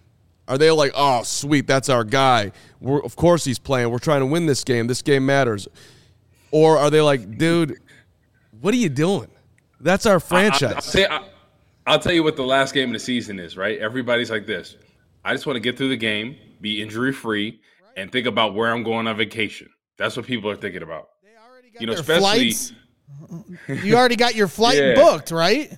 Are they like, oh, sweet, that's our guy. We're, of course he's playing. We're trying to win this game. This game matters. Or are they like, dude, what are you doing? That's our franchise. I, I, I'll, say, I, I'll tell you what the last game of the season is, right? Everybody's like this. I just want to get through the game, be injury-free, and think about where I'm going on vacation. That's what people are thinking about. They already got you know, their especially flights. You already got your flight Yeah. booked, right?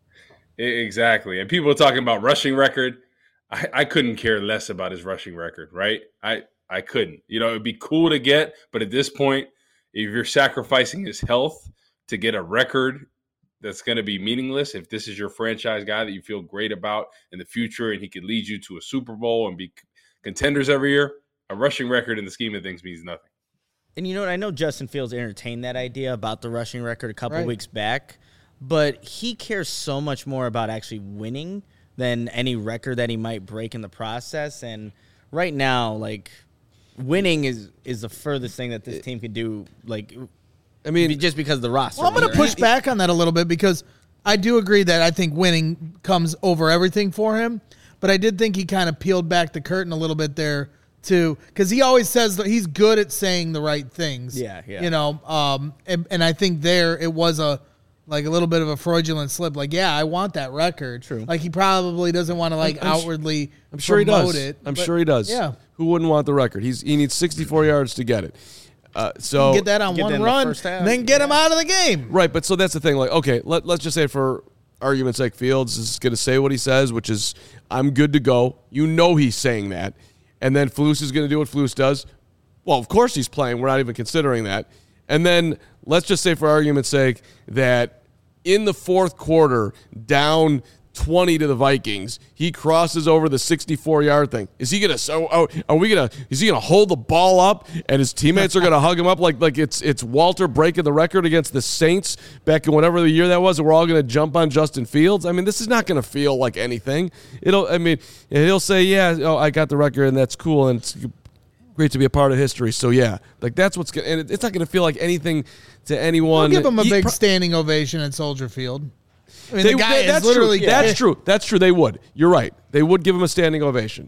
Exactly. And people are talking about rushing record. I, I couldn't care less about his rushing record, right? I, I couldn't. You know, it'd be cool to get, but at this point, if you're sacrificing his health to get a record that's going to be meaningless, if this is your franchise guy that you feel great about in the future and he could lead you to a Super Bowl and be contenders every year, a rushing record in the scheme of things means nothing. And you know what? I know Justin Fields entertained that idea about the rushing record a couple Right. weeks back, but he cares so much more about actually winning than any record that he might break in the process. And right now, like, winning is is the furthest thing that this team could do, like, I mean, just because of the roster. Well, I'm going to push back on that a little bit because I do agree that I think winning comes over everything for him. But I did think he kind of peeled back the curtain a little bit there too, because he always says that he's good at saying the right things. Yeah, yeah. You know, um, and, and I think there it was a like a little bit of a fraudulent slip. Like, yeah, I want that record. True. Like he probably doesn't want to like I'm- I'm su- outwardly. I'm sure he promote does. It, I'm but- sure he does. Yeah. Who wouldn't want the record? He's he needs sixty-four yards to get it. Uh, so Get that on Get that one in the run, first half, and then get yeah. him out of the game. Right, but so that's the thing. Like, okay, let, let's just say for argument's sake, Fields is going to say what he says, which is, I'm good to go. You know he's saying that. And then Flus is going to do what Flus does. Well, of course he's playing. We're not even considering that. And then let's just say for argument's sake that in the fourth quarter, down twenty to the Vikings, he crosses over the sixty-four-yard thing. Is he gonna? So, oh, are we gonna? Is he gonna hold the ball up, and his teammates are gonna hug him up like like it's it's Walter breaking the record against the Saints back in whatever the year that was, and we're all gonna jump on Justin Fields? I mean, this is not gonna feel like anything. It'll. I mean, he'll say, yeah, oh, I got the record, and that's cool, and it's great to be a part of history. So yeah, like that's what's gonna. And it's not gonna feel like anything to anyone. We'll give him a He big pro- standing ovation at Soldier Field. I mean, They, the guy they- is that's literally true. That's true. That's true. They would. You're right. They would give him a standing ovation.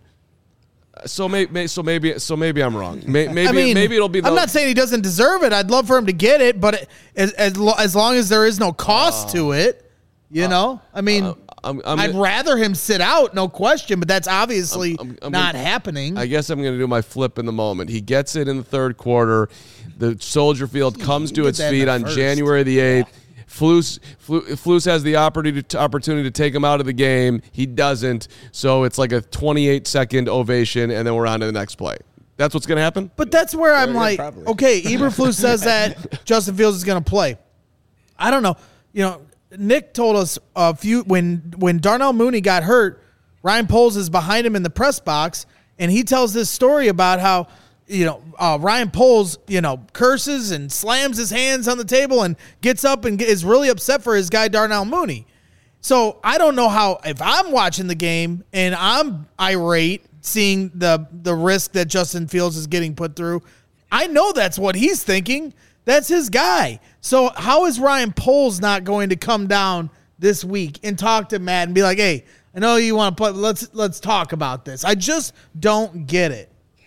Uh, So maybe, so maybe, so maybe I'm wrong. May- Maybe, I mean, maybe it'll be. The, I'm not saying he doesn't deserve it. I'd love for him to get it, but it, as as, lo- as long as there is no cost to it, you know. I mean, Uh, I'm, I'm, I'd rather him sit out, no question. But that's obviously I'm- I'm not gonna- happening. I guess I'm going to do my flip in the moment. He gets it in the third quarter. The Soldier Field comes You to did its that in feet the on first. January the eighth. Flus, Flu- Flus has the opportunity to, opportunity to take him out of the game. He doesn't. So it's like a twenty-eight second ovation, and then we're on to the next play. That's what's going to happen? But that's where I'm Yeah, like, probably. okay, Eberflus says that Justin Fields is going to play. I don't know. You know, Nick told us a few when when Darnell Mooney got hurt, Ryan Poles is behind him in the press box, and he tells this story about how, you know, uh, Ryan Poles, you know, curses and slams his hands on the table and gets up and is really upset for his guy Darnell Mooney. So I don't know how, if I'm watching the game and I'm irate seeing the the risk that Justin Fields is getting put through, I know that's what he's thinking. That's his guy. So how is Ryan Poles not going to come down this week and talk to Matt and be like, hey, I know you want to play, but let's let's talk about this. I just don't get it.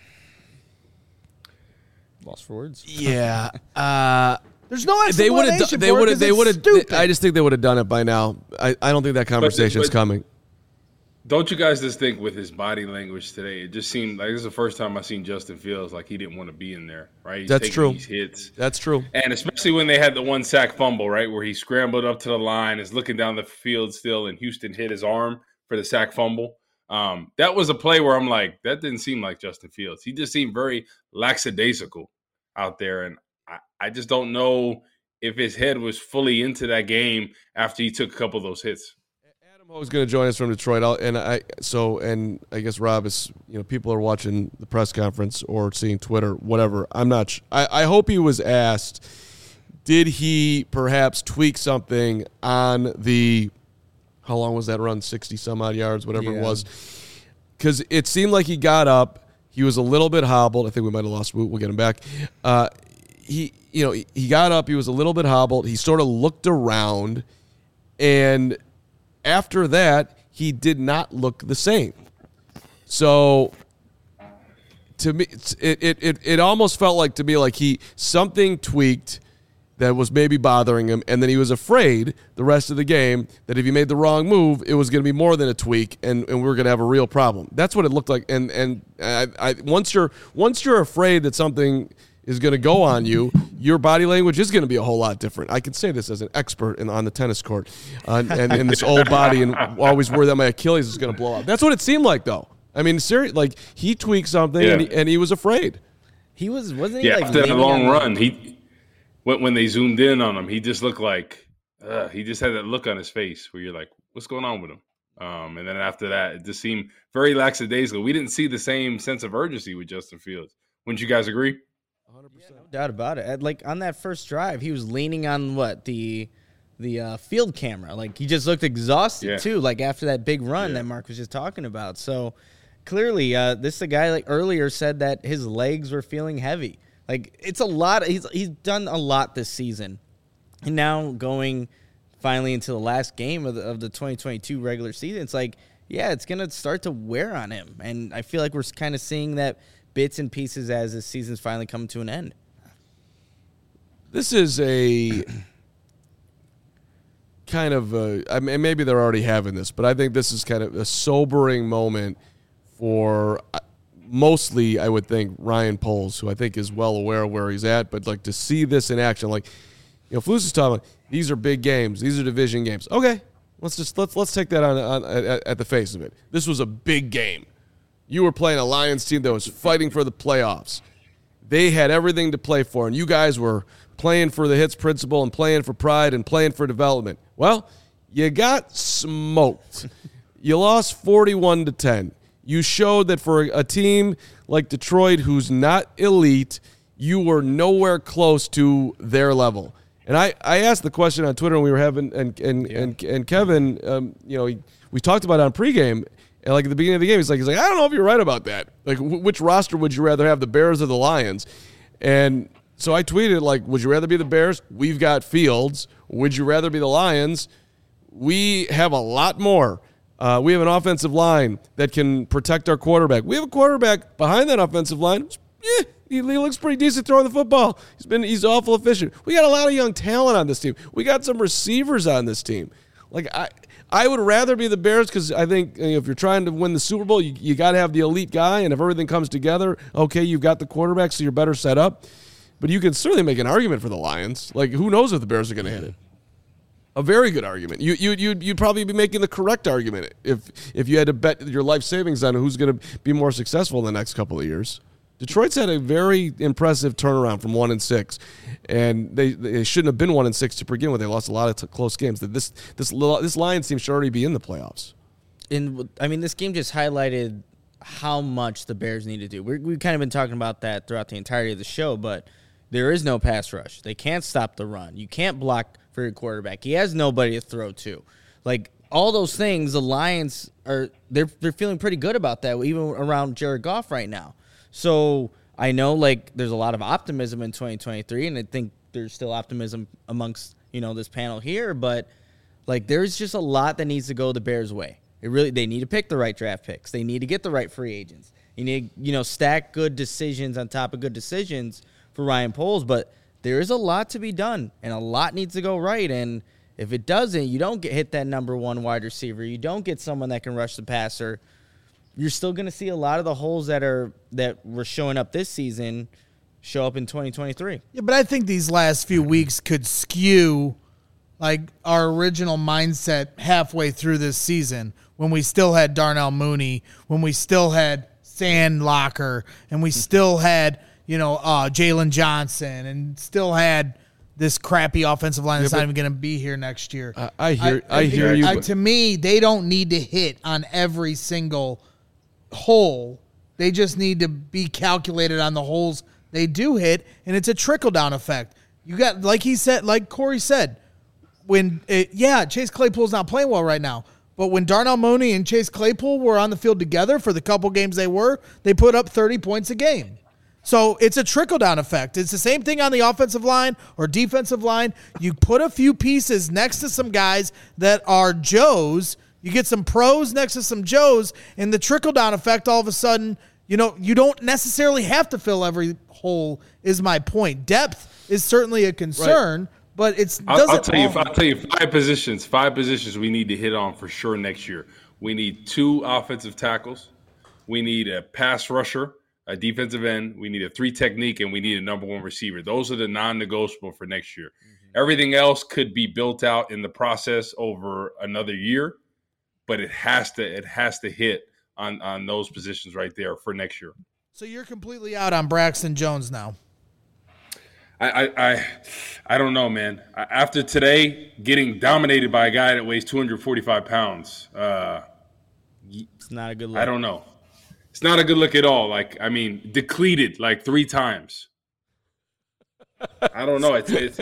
Lost for words. Yeah. Uh, There's no they would explanation have. They for it would 'cause have. They it's would have. stupid. I just think they would have done it by now. I, I don't think that conversation is but- coming. Don't you guys just think with his body language today, it just seemed like this is the first time I've seen Justin Fields like he didn't want to be in there, right? He's That's taking true. These hits. That's true. And especially when they had the one sack fumble, right, where he scrambled up to the line, is looking down the field still, and Houston hit his arm for the sack fumble. Um, that was a play where I'm like, that didn't seem like Justin Fields. He just seemed very lackadaisical out there, and I, I just don't know if his head was fully into that game after he took a couple of those hits. Adam Ho is going to join us from Detroit, I'll, and I so and I guess Rob is, you know, people are watching the press conference or seeing Twitter, whatever. I'm not. Sh- I, I hope he was asked, did he perhaps tweak something on the, how long was that run? sixty some odd yards, whatever Yeah. it was, because it seemed like he got up, he was a little bit hobbled. I think we might have lost Woot. We'll get him back. Uh, he, you know, he got up, he was a little bit hobbled. He sort of looked around, and after that, he did not look the same. So to me, it, it, it, it almost felt like to me like he something tweaked that was maybe bothering him, and then he was afraid the rest of the game that if he made the wrong move, it was going to be more than a tweak, and, and we were going to have a real problem. That's what it looked like. And and I, I, once you're once you're afraid that something is going to go on you, your body language is going to be a whole lot different. I can say this as an expert in, on the tennis court, uh, and in this old body, and always worry that my Achilles is going to blow up. That's what it seemed like, though. I mean, serious, like he tweaked something, yeah. and, he, and he was afraid. He was wasn't he yeah, like after that long run, the- he. When, when they zoomed in on him, he just looked like uh, he just had that look on his face where you're like, "What's going on with him?" Um, and then after that, it just seemed very lackadaisical. We didn't see the same sense of urgency with Justin Fields. Wouldn't you guys agree? one hundred percent. Yeah, no doubt about it. Like on that first drive, he was leaning on what the the uh, field camera. Like he just looked exhausted yeah. too. Like after that big run yeah. that Mark was just talking about. So clearly, uh, this is a guy like earlier said that his legs were feeling heavy. Like, it's a lot. Of, he's he's done a lot this season. And now going finally into the last game of the, of the twenty twenty-two regular season, it's like, yeah, it's going to start to wear on him. And I feel like we're kind of seeing that bits and pieces as the season's finally coming to an end. This is a kind of, a, I mean, maybe they're already having this, but I think this is kind of a sobering moment for mostly, I would think, Ryan Poles, who I think is well aware of where he's at, but like to see this in action, like, you know, Flus is talking about, these are big games, these are division games. Okay, let's just let's let's take that on, on at, at the face of it. This was a big game. You were playing a Lions team that was fighting for the playoffs. They had everything to play for, and you guys were playing for the hits principle and playing for pride and playing for development. Well, you got smoked. You lost forty-one to ten. You showed that for a team like Detroit, who's not elite, you were nowhere close to their level. And I, I asked the question on Twitter, and we were having, and and yeah. and, and Kevin, um, you know, he, we talked about it on pregame, and like at the beginning of the game, he's like, he's like, I don't know if you're right about that. Like, w- which roster would you rather have, the Bears or the Lions? And so I tweeted, like, would you rather be the Bears? We've got Fields. Would you rather be the Lions? We have a lot more. Uh, we have an offensive line that can protect our quarterback. We have a quarterback behind that offensive line. Yeah, he, he looks pretty decent throwing the football. He's been he's awful efficient. We got a lot of young talent on this team. We got some receivers on this team. Like I, I would rather be the Bears because I think you know, if you're trying to win the Super Bowl, you, you got to have the elite guy. And if everything comes together, okay, you've got the quarterback, so you're better set up. But you can certainly make an argument for the Lions. Like who knows if the Bears are going to hit it. A very good argument. You you you'd, you'd probably be making the correct argument if if you had to bet your life savings on who's going to be more successful in the next couple of years. Detroit's had a very impressive turnaround from one and six, and they, they shouldn't have been one and six to begin with. They lost a lot of t- close games. That this this this Lions team should already be in the playoffs. And I mean, this game just highlighted how much the Bears need to do. We're, we've kind of been talking about that throughout the entirety of the show, but there is no pass rush. They can't stop the run. You can't block for your quarterback. He has nobody to throw to. Like all those things, the Lions are they're they're feeling pretty good about that, even around Jared Goff right now. So I know like there's a lot of optimism in twenty twenty-three, and I think there's still optimism amongst you know this panel here, but like there's just a lot that needs to go the Bears' way. It really they need to pick the right draft picks. They need to get the right free agents. You need you know stack good decisions on top of good decisions for Ryan Poles, but there is a lot to be done, and a lot needs to go right. And if it doesn't, you don't get hit that number one wide receiver. You don't get someone that can rush the passer. You're still going to see a lot of the holes that are that were showing up this season show up in twenty twenty-three. Yeah, but I think these last few weeks could skew like our original mindset halfway through this season when we still had Darnell Mooney, when we still had Sandlocker, and we still had – you know, uh, Jalen Johnson, and still had this crappy offensive line that's yeah, not even going to be here next year. I, I hear, I, I hear you. I, to me, they don't need to hit on every single hole. They just need to be calculated on the holes they do hit, and it's a trickle down effect. You got, like he said, like Corey said, when it, yeah, Chase Claypool's not playing well right now. But when Darnell Mooney and Chase Claypool were on the field together for the couple games they were, they put up thirty points a game. So it's a trickle-down effect. It's the same thing on the offensive line or defensive line. You put a few pieces next to some guys that are Joes, You get some pros next to some Joes, and the trickle-down effect, all of a sudden, you know, you don't necessarily have to fill every hole, is my point. Depth is certainly a concern, right. but it's I'll, doesn't I'll tell you, I'll tell you five positions, five positions we need to hit on for sure next year. We need two offensive tackles. We need a pass rusher, a defensive end. We need a three technique, and we need a number one receiver. Those are the non-negotiable for next year. Mm-hmm. Everything else could be built out in the process over another year, but it has to it has to hit on, on those positions right there for next year. So you're completely out on Braxton Jones now. I I I, I don't know, man. After today, getting dominated by a guy that weighs two hundred forty-five pounds, uh, it's not a good look. I don't know. It's not a good look at all. Like, I mean, depleted like three times. I don't know. It's, it's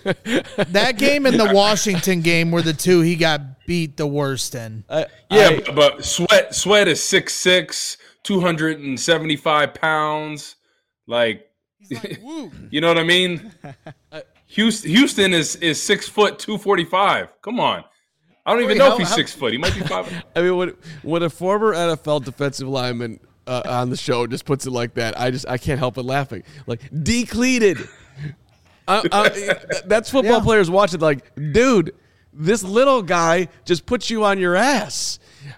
that game and the Washington game were the two he got beat the worst in. Uh, yeah, I, but, but Sweat Sweat is six six, two hundred seventy-five pounds. Like, like you know what I mean? Houston, Houston is is six foot two forty five. Come on. I don't even Wait, know how, if he's how, six foot. He might be five. I mean, when when a former N F L defensive lineman uh, on the show just puts it like that, I just I can't help but laughing. Like, decleated. I, I, that's football yeah. players watching. Like, dude, this little guy just puts you on your ass.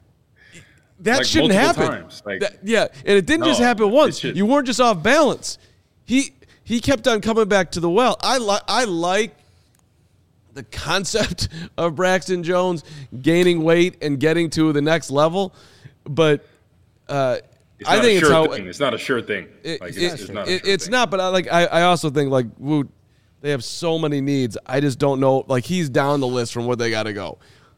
That like shouldn't happen. Like, that, yeah, and it didn't no, just happen once. You weren't just off balance. He he kept on coming back to the well. I like I like. the concept of Braxton Jones gaining weight and getting to the next level, but uh, I think it's sure how thing. It's not a sure thing. It, like it, it's, it's not. A it, sure it's thing. not. But I like. I, I also think like Woot, they have so many needs. I just don't know. Like he's down the list from where they got to go.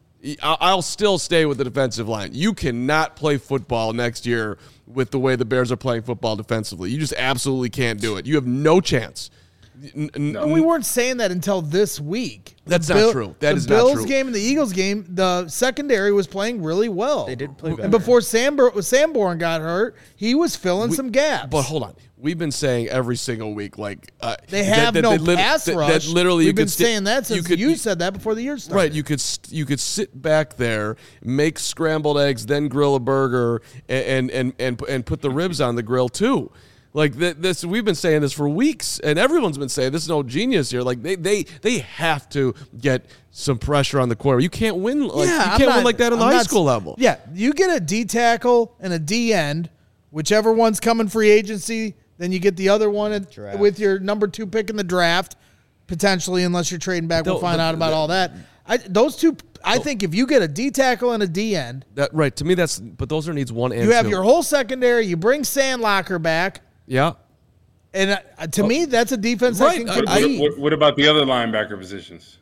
I'll still stay with the defensive line. You cannot play football next year with the way the Bears are playing football defensively. You just absolutely can't do it. You have no chance. N- no, we weren't saying that until this week. That's the not Bill, true. That the is Bills not true. game and the Eagles game, the secondary was playing really well. They did play better. And before Sambor- Sanborn got hurt, he was filling we, some gaps. But hold on. We've been saying every single week, like uh, they have that, no that, that, pass that, rush. That literally, We've you been could saying that since you, could, you said that before the year started. Right, you could you could sit back there, make scrambled eggs, then grill a burger, and and and and put the ribs on the grill too. Like this, we've been saying this for weeks, and everyone's been saying this is no genius here. Like they they they have to get some pressure on the quarter. You can't win. Like, yeah, you can't not, win like that on the I'm high not, school level. Yeah, you get a D tackle and a D end, whichever one's coming free agency. Then you get the other one at, with your number two pick in the draft, potentially, unless you're trading back. We'll find the, out about the, all that. I, those two, I think, if you get a D tackle and a D end, that right to me, that's but those are needs one and you have two. your whole secondary. You bring Sandlocker back. Yeah. And uh, to oh, me, that's a defense right. that can compete. What, what, what about the other linebacker positions?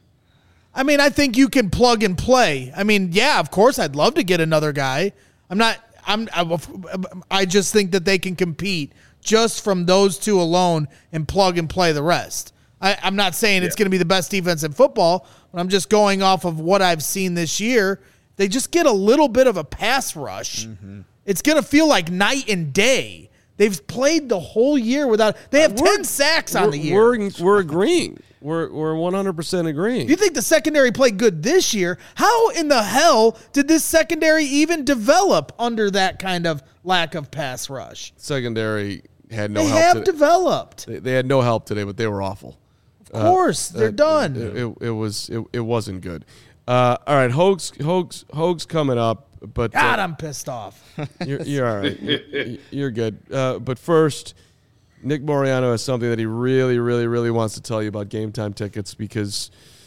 I mean, I think you can plug and play. I mean, yeah, of course, I'd love to get another guy. I'm not. I'm. I, I just think that they can compete just from those two alone and plug and play the rest. I, I'm not saying yeah. it's going to be the best defense in football, but I'm just going off of what I've seen this year. They just get a little bit of a pass rush. Mm-hmm. It's going to feel like night and day. They've played the whole year without. They have uh, ten sacks on the year. We're we're agreeing. We're we're one hundred percent agreeing. If you think the secondary played good this year, how in the hell did this secondary even develop under that kind of lack of pass rush? Secondary had no they help. They have today. developed. They, they had no help today, but they were awful. Of course, uh, they're uh, done. It, it, it was it, it wasn't good. Uh, all right, Hogs Hogs Hogs coming up. But God, uh, I'm pissed off. You're, you're all right. You're, you're good. Uh, but first, Nick Moriano has something that he really, really, really wants to tell you about Game Time tickets because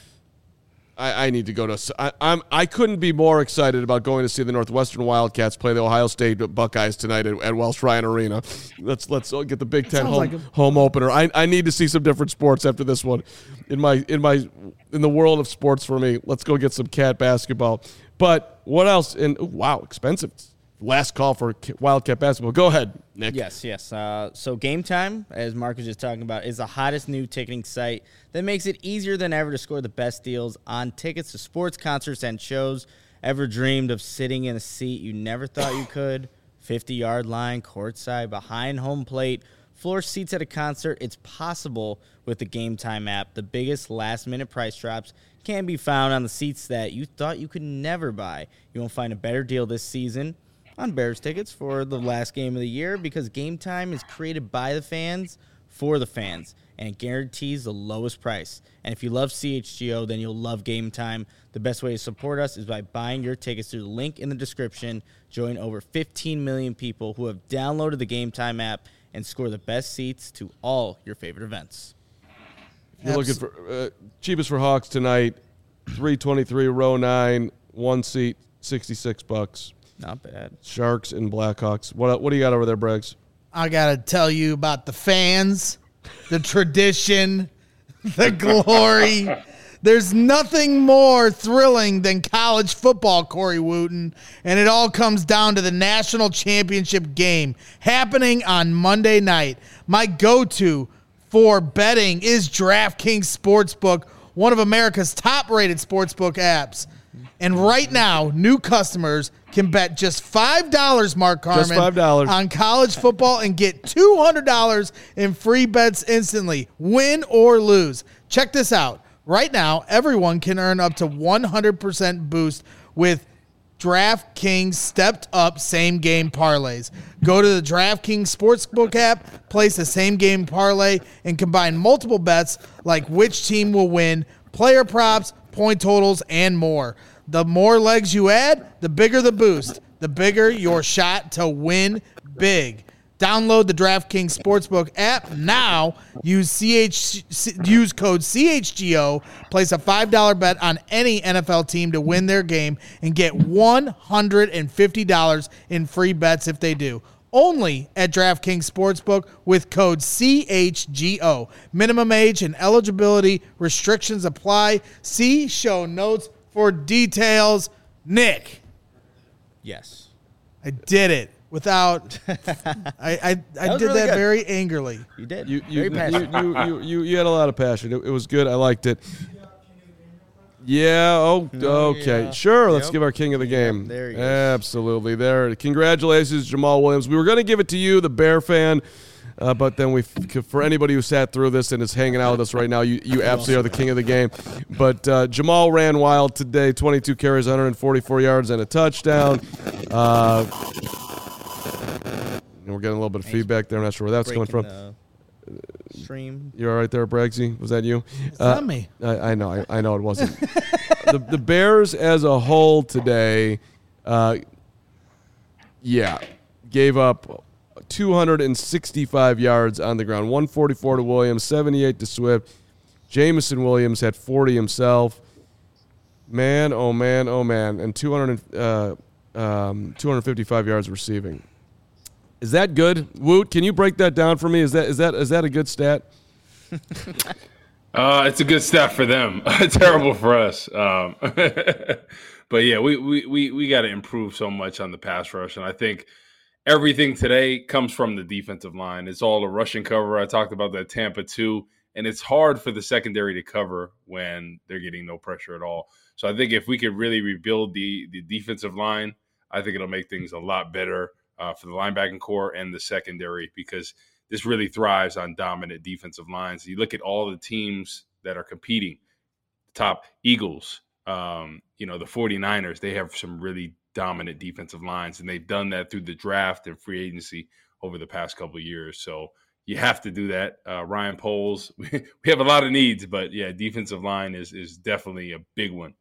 I, I need to go to. I, I'm. I couldn't be more excited about going to see the Northwestern Wildcats play the Ohio State Buckeyes tonight at, at Welsh Ryan Arena. Let's let's get the Big Ten home, like a- home opener. I, I need to see some different sports after this one. In my in my in the world of sports for me, let's go get some cat basketball. But what else? And ooh, wow, expensive. Last call for Wildcat basketball. Go ahead, Nick. Yes, yes. Uh, so Game Time, as Mark was just talking about, is the hottest new ticketing site that makes it easier than ever to score the best deals on tickets to sports, concerts, and shows. Ever dreamed of sitting in a seat you never thought you could? fifty-yard line, courtside, behind home plate, Floor seats at a concert, it's possible with the Game Time app. The biggest last-minute price drops can be found on the seats that you thought you could never buy. You won't find a better deal this season on Bears tickets for the last game of the year because Game Time is created by the fans for the fans, and it guarantees the lowest price. And if you love C H G O, then you'll love Game Time. The best way to support us is by buying your tickets through the link in the description. Join over fifteen million people who have downloaded the Game Time app and score the best seats to all your favorite events. You're looking for uh, cheapest for Hawks tonight, three twenty-three, row nine, one seat, sixty-six bucks. Not bad. Sharks and Blackhawks. What what do you got over there, Braggs? I got to tell you about the fans, the tradition, the glory. There's nothing more thrilling than college football, Corey Wooten, and it all comes down to the national championship game happening on Monday night. My go-to for betting is DraftKings Sportsbook, one of America's top-rated sportsbook apps. And right now, new customers can bet just five dollars, Mark Carman, just five dollars on college football and get two hundred dollars in free bets instantly, win or lose. Check this out. Right now, everyone can earn up to one hundred percent boost with DraftKings stepped-up same-game parlays. Go to the DraftKings Sportsbook app, place a same-game parlay, and combine multiple bets like which team will win, player props, point totals, and more. The more legs you add, the bigger the boost, the bigger your shot to win big. Download the DraftKings Sportsbook app now. Use C H use code C H G O. Place a five dollar bet on any N F L team to win their game and get one hundred fifty dollars in free bets if they do. Only at DraftKings Sportsbook with code C H G O. Minimum age and eligibility restrictions apply. See show notes for details. Nick. Yes. I did it. Without, I I, I That did really that good. very angrily. You did. You you, Very passionate. you, you, you, you you had a lot of passion. It, it was good. I liked it. Yeah. Oh, okay. yeah. Sure. Let's Yep. give our king of the game. Yep, there he is. Absolutely. There. Congratulations, Jamal Williams. We were going to give it to you, the Bear fan, uh, but then we, for anybody who sat through this and is hanging out with us right now, you, you absolutely are the king of the game. But uh, Jamal ran wild today. twenty-two carries, one hundred forty-four yards, and a touchdown. Uh, and we're getting a little bit of feedback there. I'm not sure where that's coming Breaking from. the Stream. You all right there, Braggsy? Was that you? It's not me. I, I know. I, I know it wasn't. the, the Bears as a whole today, uh, yeah, gave up two hundred sixty-five yards on the ground. one forty-four to Williams, seventy-eight to Swift. Jameson Williams had forty himself. Man, oh man, oh man. And two hundred, uh, um, two hundred fifty-five yards receiving. Is that good? Woot, can you break that down for me? Is that is that is that a good stat? Uh, it's a good stat for them. Terrible for us. Um, but yeah, we we we, we got to improve so much on the pass rush, and I think everything today comes from the defensive line. It's all a rushing cover. I talked about that Tampa too, and it's hard for the secondary to cover when they're getting no pressure at all. So I think if we could really rebuild the the defensive line, I think it'll make things a lot better uh, for the linebacking core and the secondary, because this really thrives on dominant defensive lines. You look at all the teams that are competing, top Eagles, um, you know, the 49ers, they have some really dominant defensive lines, and they've done that through the draft and free agency over the past couple of years. So you have to do that. Uh, Ryan Poles, we have a lot of needs, but yeah, defensive line is is definitely a big one.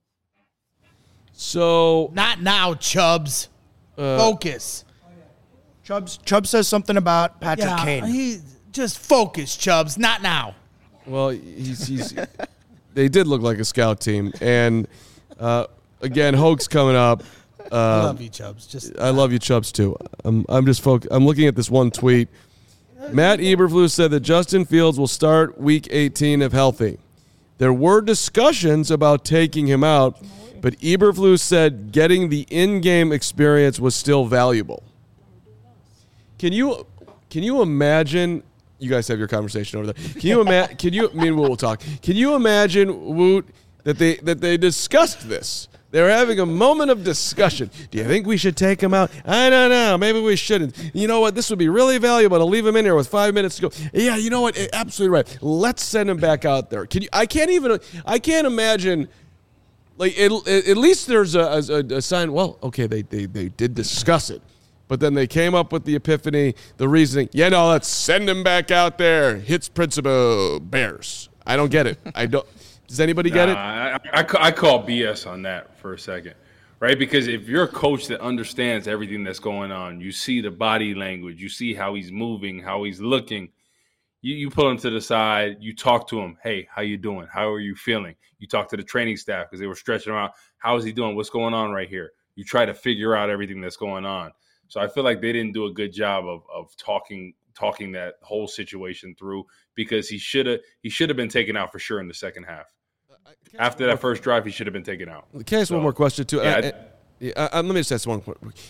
So Not now, Chubbs. uh, Focus. Chubbs, Chubb says something about Patrick Yeah, Kane. he just focus, Chubbs. Not now. Well, he's, he's they did look like a scout team, and uh, again, Hoke's coming up. Uh, I love you, Chubbs. Just I love you, Chubbs, too. I'm I'm just foc- I'm looking at this one tweet. Matt Eberflus said that Justin Fields will start Week eighteen if healthy. There were discussions about taking him out, but Eberflus said getting the in-game experience was still valuable. Can you can you imagine? You guys have your conversation over there. Can you imagine? Can you? Me and Woot will talk. Can you imagine, Woot, that they that they discussed this? They're having a moment of discussion. Do you think we should take him out? I don't know. Maybe we shouldn't. You know what? This would be really valuable to leave him in here with five minutes to go. Yeah, you know what? Absolutely right. Let's send him back out there. Can you? I can't even. I can't imagine. Like it, it, at least there's a, a, a sign. Well, okay, they, they they did discuss it, but then they came up with the epiphany, the reasoning. Yeah, no, let's send him back out there. Hits principle Bears. I don't get it. I don't. Does anybody get it? Nah, I, I, I call B S on that for a second, right? Because if you're a coach that understands everything that's going on, you see the body language, you see how he's moving, how he's looking. You, you pull him to the side, you talk to him. Hey, how you doing? How are you feeling? You talk to the training staff because they were stretching him out. How is he doing? What's going on right here? You try to figure out everything that's going on. So I feel like they didn't do a good job of of talking talking that whole situation through because he should have he should have been taken out for sure in the second half. After that first drive, he should have been taken out. Can I ask so, one more question too? Yeah, I, I, I, I, let me just ask one.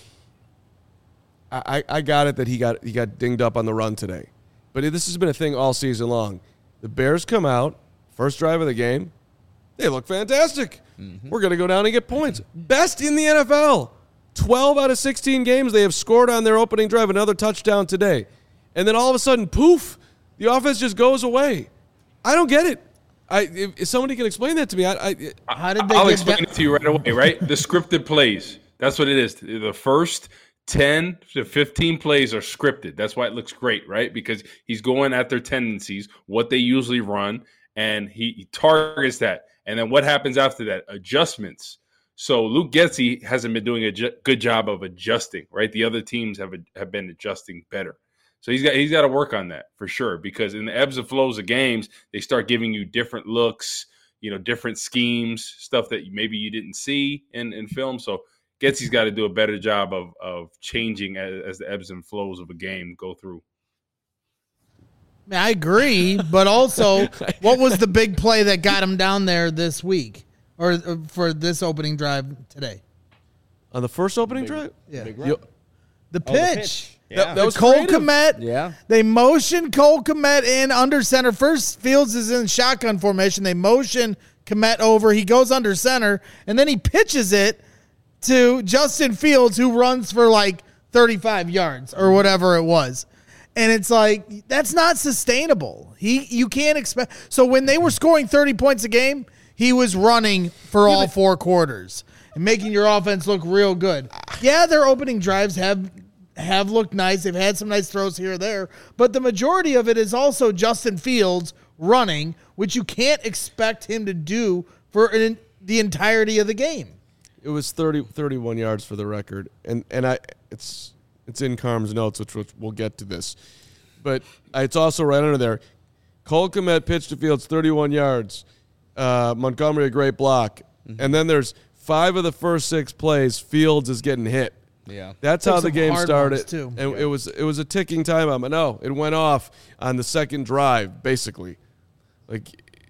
I, I got it that he got he got dinged up on the run today, but this has been a thing all season long. The Bears come out first drive of the game, they look fantastic. Mm-hmm. We're gonna go down and get points. Best in the N F L. Twelve out of sixteen games they have scored on their opening drive. Another touchdown today, and then all of a sudden, poof, the offense just goes away. I don't get it. I, if, if somebody can explain that to me, I, I how did they I'll get explain that? it to you right away, right? The scripted plays. That's what it is. The first ten to fifteen plays are scripted. That's why it looks great, right? Because he's going at their tendencies, what they usually run, and he, he targets that. And then what happens after that? Adjustments. So Luke Getsy hasn't been doing a ju- good job of adjusting, right? The other teams have have been adjusting better. So he's got he's got to work on that for sure, because in the ebbs and flows of games, they start giving you different looks, you know, different schemes, stuff that maybe you didn't see in, in film. So Getsy's got to do a better job of of changing as, as the ebbs and flows of a game go through. I agree, but also, what was the big play that got him down there this week or for this opening drive today? On the first opening Big, drive? Yeah. You, The pitch. Oh, the pitch. Yeah. That, that was Cole creative. Kmet. Yeah. They motion Cole Kmet in under center. First, Fields is in shotgun formation. They motion Kmet over. He goes under center, and then he pitches it to Justin Fields, who runs for like thirty-five yards or whatever it was. And it's like, that's not sustainable. He You can't expect. So when they were scoring thirty points a game, he was running for all four quarters and making your offense look real good. Yeah, their opening drives have have looked nice. They've had some nice throws here or there. But the majority of it is also Justin Fields running, which you can't expect him to do for an, the entirety of the game. It was thirty, thirty-one yards for the record. And and I it's it's in Carm's notes, which, which we'll get to this. But it's also right under there. Cole Kmet pitched to Fields thirty-one yards. Uh, Montgomery, a great block. Mm-hmm. And then there's five of the first six plays, Fields is getting hit. Yeah, that's Took how the some game hard started. ones, too. And Yeah. it was it was a ticking time bomb. But no, it went off on the second drive, basically. Like,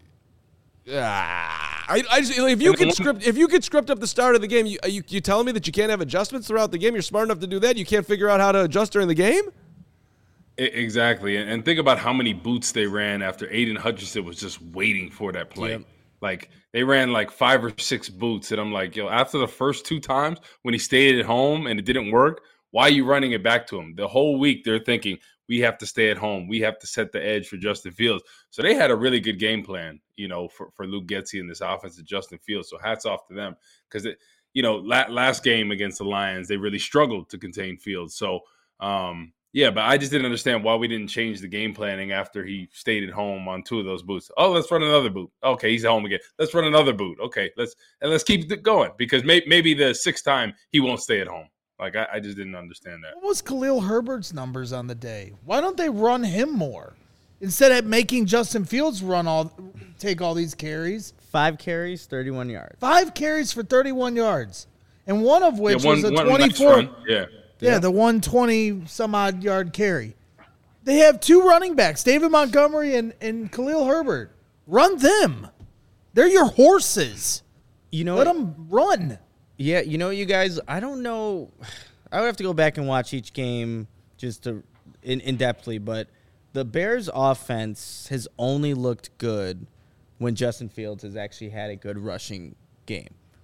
ah, I, I just, if you could script if you could script up the start of the game, you you you telling me that you can't have adjustments throughout the game? You're smart enough to do that. You can't figure out how to adjust during the game? Exactly. And, and think about how many boots they ran after Aiden Hutchinson was just waiting for that play. Yep. Like, they ran like five or six boots. And I'm like, yo, after the first two times when he stayed at home and it didn't work, why are you running it back to him? The whole week they're thinking, we have to stay at home. We have to set the edge for Justin Fields. So they had a really good game plan, you know, for, for Luke Getsy and this offense of Justin Fields. So hats off to them. Because, you know, la- last game against the Lions, they really struggled to contain Fields. So, um, yeah, but I just didn't understand why we didn't change the game planning after he stayed at home on two of those boots. Oh, let's run another boot. Okay, he's at home again. Let's run another boot. Okay, let's and let's keep it going, because may, maybe the sixth time he won't stay at home. Like, I, I just didn't understand that. What was Khalil Herbert's numbers on the day? Why don't they run him more instead of making Justin Fields run all take all these carries? Five carries, thirty-one yards. Five carries for thirty-one yards, and one of which Yeah, one, was a one twenty-four. nice run. Yeah. Yeah, the one twenty some odd yard carry. They have two running backs, David Montgomery and, and Khalil Herbert. Run them. They're your horses. You know, Let them run. Yeah, you know, you guys, I don't know. I would have to go back and watch each game just to in, in depthly, but the Bears offense has only looked good when Justin Fields has actually had a good rushing game.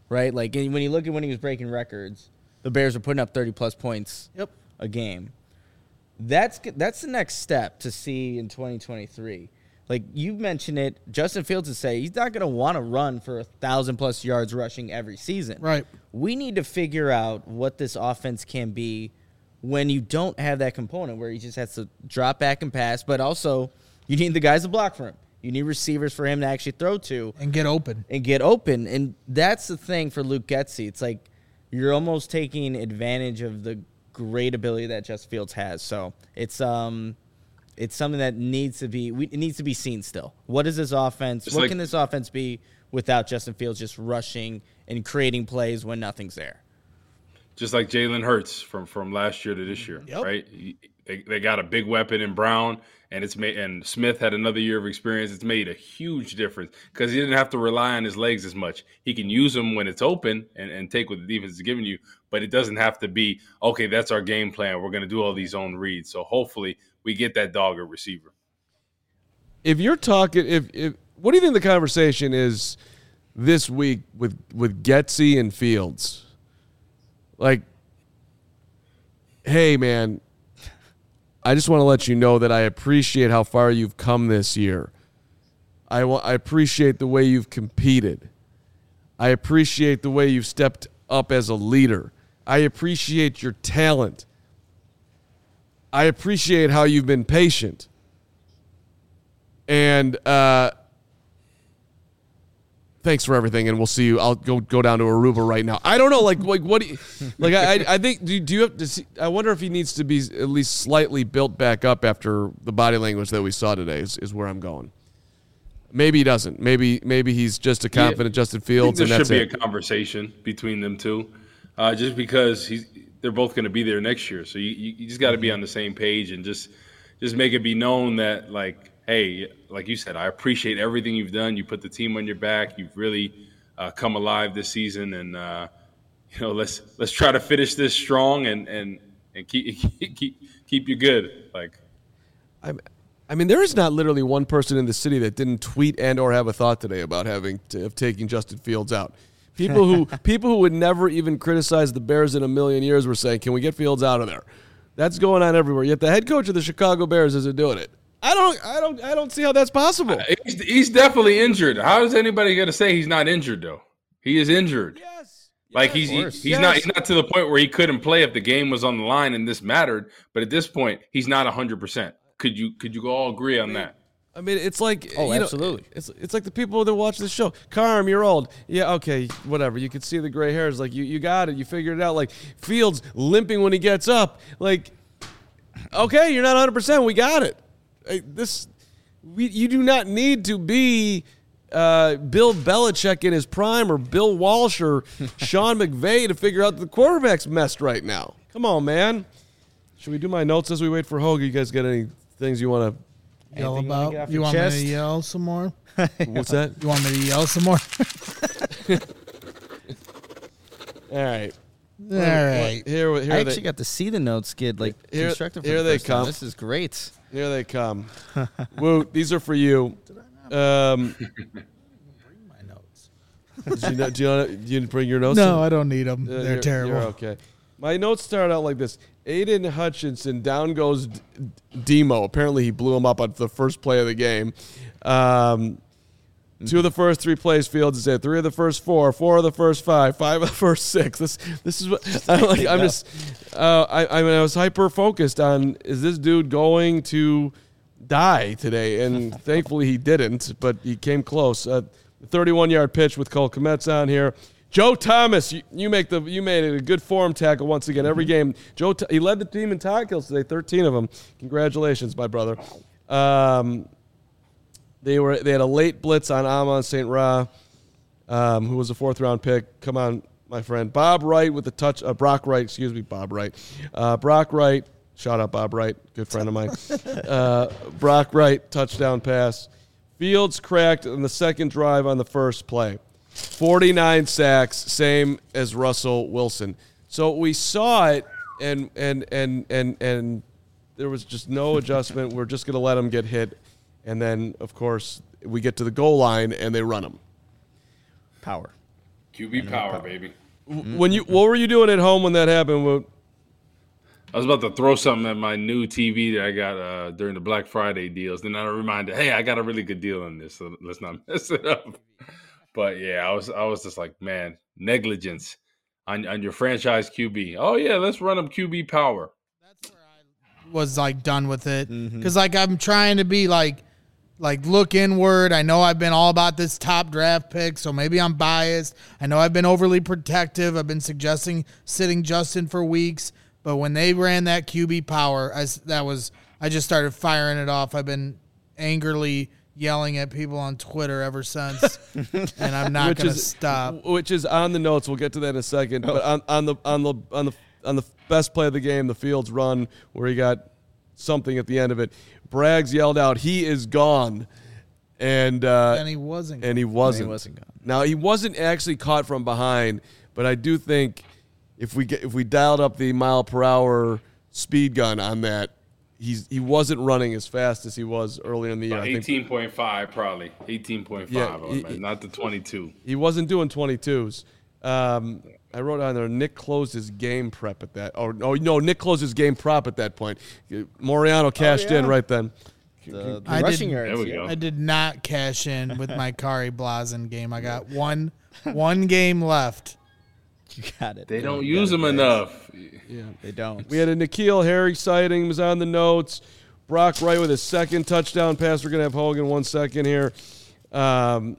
right? Like when you look at when he was breaking records, the Bears were putting up thirty-plus points Yep. a game. That's that's the next step to see in twenty twenty-three. Like you mentioned it, Justin Fields would say he's not going to want to run for a thousand-plus yards rushing every season. Right. We need to figure out what this offense can be when you don't have that component where he just has to drop back and pass, but also you need the guys to block for him. You need receivers for him to actually throw to. And get open. And get open. And that's the thing for Luke Getsy. It's like you're almost taking advantage of the great ability that Justin Fields has. So it's um it's something that needs to be we, it needs to be seen still. What is this offense? It's what like, can this offense be without Justin Fields just rushing and creating plays when nothing's there? Just like Jalen Hurts from, from last year to this year, Yep. right? They, they got a big weapon in Brown, and it's made. And Smith had another year of experience. It's made a huge difference because he didn't have to rely on his legs as much. He can use them when it's open and, and take what the defense is giving you, but it doesn't have to be, okay, that's our game plan. We're going to do all these zone reads. So hopefully we get that dog a receiver. If you're talking, if, if what do you think the conversation is this week with, with Getsy and Fields? Like, hey, man, I just want to let you know that I appreciate how far you've come this year. I, wa- I appreciate the way you've competed. I appreciate the way you've stepped up as a leader. I appreciate your talent. I appreciate how you've been patient. And uh, thanks for everything, and we'll see you. I'll go go down to Aruba right now. I don't know, like like what do you like? I I think do, do you have to see? I wonder if he needs to be at least slightly built back up after the body language that we saw today. Is, is where I'm going. Maybe he doesn't. Maybe maybe he's just a confident Yeah, Justin Fields, I and think that's there it. should be a conversation between them two, uh, just because he's they're both going to be there next year. So you you, you just got to be on the same page and just just make it be known that, like, hey, like you said, I appreciate everything you've done. You put the team on your back. You've really uh, come alive this season, and uh, you know, let's let's try to finish this strong and and and keep keep keep you good. Like, I'm, I mean, there is not literally one person in the city that didn't tweet and or have a thought today about having to, of taking Justin Fields out. People who people who would never even criticize the Bears in a million years were saying, "Can we get Fields out of there?" That's going on everywhere. Yet the head coach of the Chicago Bears isn't doing it. I don't, I don't, I don't see how that's possible. he's, he's definitely injured. How is anybody going to say he's not injured though? He is injured. Yes, Like yes, he's he, course. he's Yes. not he's not to the point where he couldn't play if the game was on the line and this mattered. But at this point, he's not a hundred percent. Could you could you all agree on that? I mean, it's like Oh, you know, absolutely. it's it's like the people that watch the show. Carm, you're old. Yeah, okay, whatever. You can see the gray hairs. Like you, you got it. You figured it out. Like Fields limping when he gets up. Like, okay, you're not one hundred percent. We got it. Like, this, we you do not need to be uh, Bill Belichick in his prime or Bill Walsh or Sean McVay to figure out that the quarterback's messed right now. Come on, man. Should we do my notes as we wait for Hogue? You guys got any things you want to? Yell Anything you wanna about. get off You your want me chest? to yell some more? What's that? You want me to yell some more? All right. All right. Here, here I they, actually got to see the notes get like Here- constructed. For here the they first time. come. This is great. here they come. Woot, these are for you. Um, My notes. did you, know, do you, know, you didn't bring your notes? No, in? I don't need them. Uh, They're you're- terrible. You're okay. My notes start out like this. Aiden Hutchinson, down goes D- Demo. Apparently he blew him up on the first play of the game. Um, two of the first three plays Fields is at. Three of the first four. Four of the first five. Five of the first six. This this is what I'm like. I'm just. Uh, I I mean I was hyper focused on, is this dude going to die today? And thankfully he didn't, but he came close. Uh, thirty-one yard pitch with Cole Kmet's on here. Joe Thomas, you, you make the you made it a good form tackle once again every game. Joe, he led the team in tackles today, thirteen of them. Congratulations, my brother. Um, they were they had a late blitz on Amon Saint Ra, um, who was a fourth round pick. Come on, my friend. Bob Wright with the touch. Uh, Brock Wright, excuse me, Bob Wright. Uh, Brock Wright, shout out Bob Wright, good friend of mine. Uh, Brock Wright touchdown pass. Fields cracked on the second drive on the first play. forty-nine sacks, same as Russell Wilson. So we saw it, and and and and and there was just no adjustment. We're just going to let them get hit, and then of course we get to the goal line and they run them. Power. Q B power, power, baby. When you, what were you doing at home when that happened? What? I was about to throw something at my new T V that I got uh, during the Black Friday deals. Then I reminded, hey, I got a really good deal on this, so let's not mess it up. But yeah, I was I was just like, man, negligence on on your franchise Q B. Oh yeah, let's run them Q B power. That's where I was like done with it because mm-hmm. like I'm trying to be like like look inward. I know I've been all about this top draft pick, so maybe I'm biased. I know I've been overly protective. I've been suggesting sitting Justin for weeks. But when they ran that Q B power, I, that was I just started firing it off. I've been angrily yelling at people on Twitter ever since, and I'm not going to stop. Which is on the notes. We'll get to that in a second. But on, on the on the on the on the best play of the game, the Fields run where he got something at the end of it. Braggs yelled out, "He is gone," and uh, and he wasn't. And he wasn't. And he wasn't gone. Now he wasn't actually caught from behind, but I do think. If we get if we dialed up the mile per hour speed gun on that, he's he wasn't running as fast as he was earlier in the year. eighteen point five probably. eighteen point five, yeah, he, not the twenty-two. He wasn't doing twenty-twos. Um, I wrote on there, Nick closed his game prep at that. Oh, no, no, Nick closed his game prop at that point. Moriano cashed oh, yeah. in right then. The, the I rushing did, yards. There we go. I did not cash in with my Kari Blazen game. I got one one game left. You got it. They don't use them enough. Yeah, they don't. We had a N'Keal Harry sighting, was on the notes. Brock Wright with his second touchdown pass. We're going to have Hogan one second here. Um,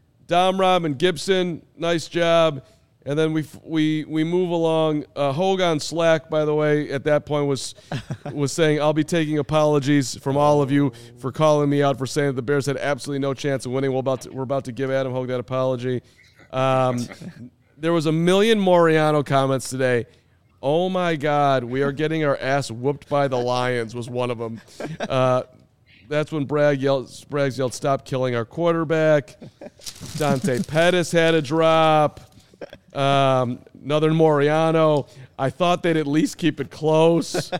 Dom Rob and Gibson, nice job. And then we we we move along. Uh, Hogan Slack, by the way, at that point was was saying, I'll be taking apologies from all of you for calling me out for saying that the Bears had absolutely no chance of winning. We're about to, we're about to give Adam Hogue that apology. Um There was a million Moriano comments today. Oh, my God, we are getting our ass whooped by the Lions was one of them. Uh, that's when Bragg yelled, Braggs yelled, stop killing our quarterback. Dante Pettis had a drop. Um, another Moriano. I thought they'd at least keep it close.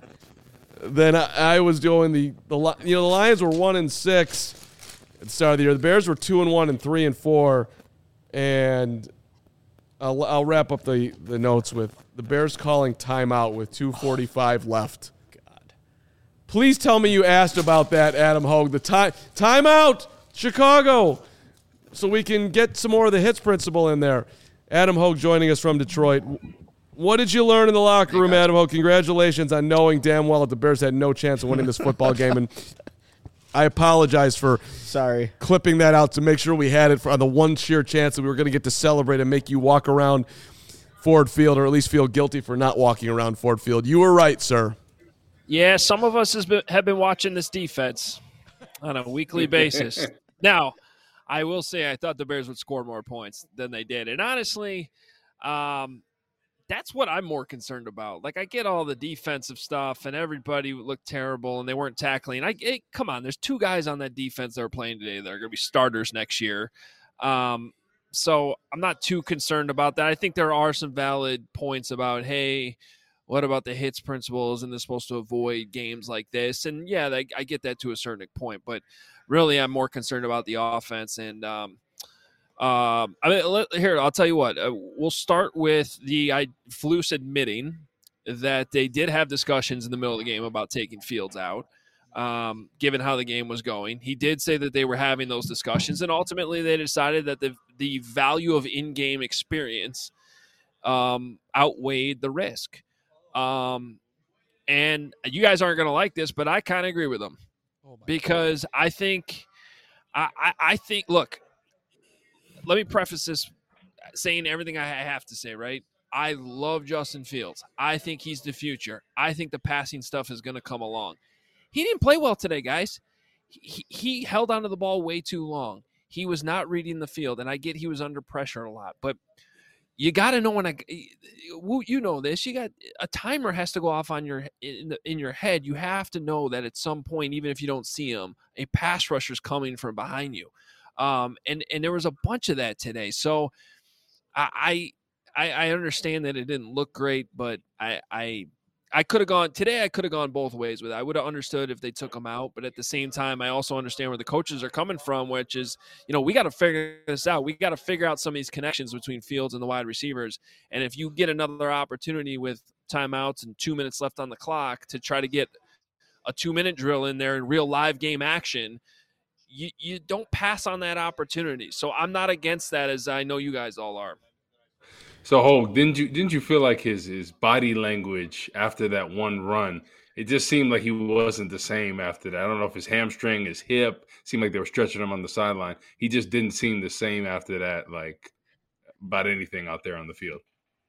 Then I, I was doing the, the – you know, the Lions were one and six at the start of the year. The Bears were two and one and three and four. And – I'll, I'll wrap up the, the notes with the Bears calling timeout with two forty-five left. God. Please tell me you asked about that, Adam Hogue. The time timeout, Chicago, so we can get some more of the hits principle in there. Adam Hogue joining us from Detroit. What did you learn in the locker room, Adam Hogue? Congratulations on knowing damn well that the Bears had no chance of winning this football game. And I apologize for sorry clipping that out to make sure we had it for, on the one sheer chance that we were going to get to celebrate and make you walk around Ford Field, or at least feel guilty for not walking around Ford Field. You were right, sir. Yeah, some of us has been, have been watching this defense on a weekly basis. Now, I will say I thought the Bears would score more points than they did. And honestly, um, that's what I'm more concerned about. Like, I get all the defensive stuff, and everybody looked terrible, and they weren't tackling. I it, come on, there's two guys on that defense that are playing today that are going to be starters next year. Um, so I'm not too concerned about that. I think there are some valid points about, hey, what about the hits principle? Isn't this supposed to avoid games like this? And, yeah, I, I get that to a certain point. But really, I'm more concerned about the offense. And um, um, I mean, let, here, I'll tell you what. Uh, we'll start with the I, Flus admitting that they did have discussions in the middle of the game about taking Fields out, um, given how the game was going. He did say that they were having those discussions, and ultimately they decided that the the value of in-game experience um, outweighed the risk. Um, and you guys aren't going to like this, but I kind of agree with them oh because God. I think, I, I, I think, look, let me preface this saying everything I have to say, right? I love Justin Fields. I think he's the future. I think the passing stuff is going to come along. He didn't play well today, guys. He, he held onto the ball way too long. He was not reading the field, and I get he was under pressure a lot, but you got to know when I, you know this. You got a timer has to go off on your in, the, in your head. You have to know that at some point, even if you don't see him, a pass rusher is coming from behind you, um, and and there was a bunch of that today. So I I, I understand that it didn't look great, but I I I could have gone today. I could have gone both ways with it. I would have understood if they took him out, but at the same time, I also understand where the coaches are coming from, which is, you know, we got to figure this out. We got to figure out some of these connections between Fields and the wide receivers. And if you get another opportunity with timeouts and two minutes left on the clock to try to get a two-minute drill in there in real live game action, you you don't pass on that opportunity. So I'm not against that, as I know you guys all are. So, Hogue, didn't you didn't you feel like his his body language after that one run, it just seemed like he wasn't the same after that? I don't know if his hamstring, his hip, seemed like they were stretching him on the sideline. He just didn't seem the same after that, like about anything out there on the field.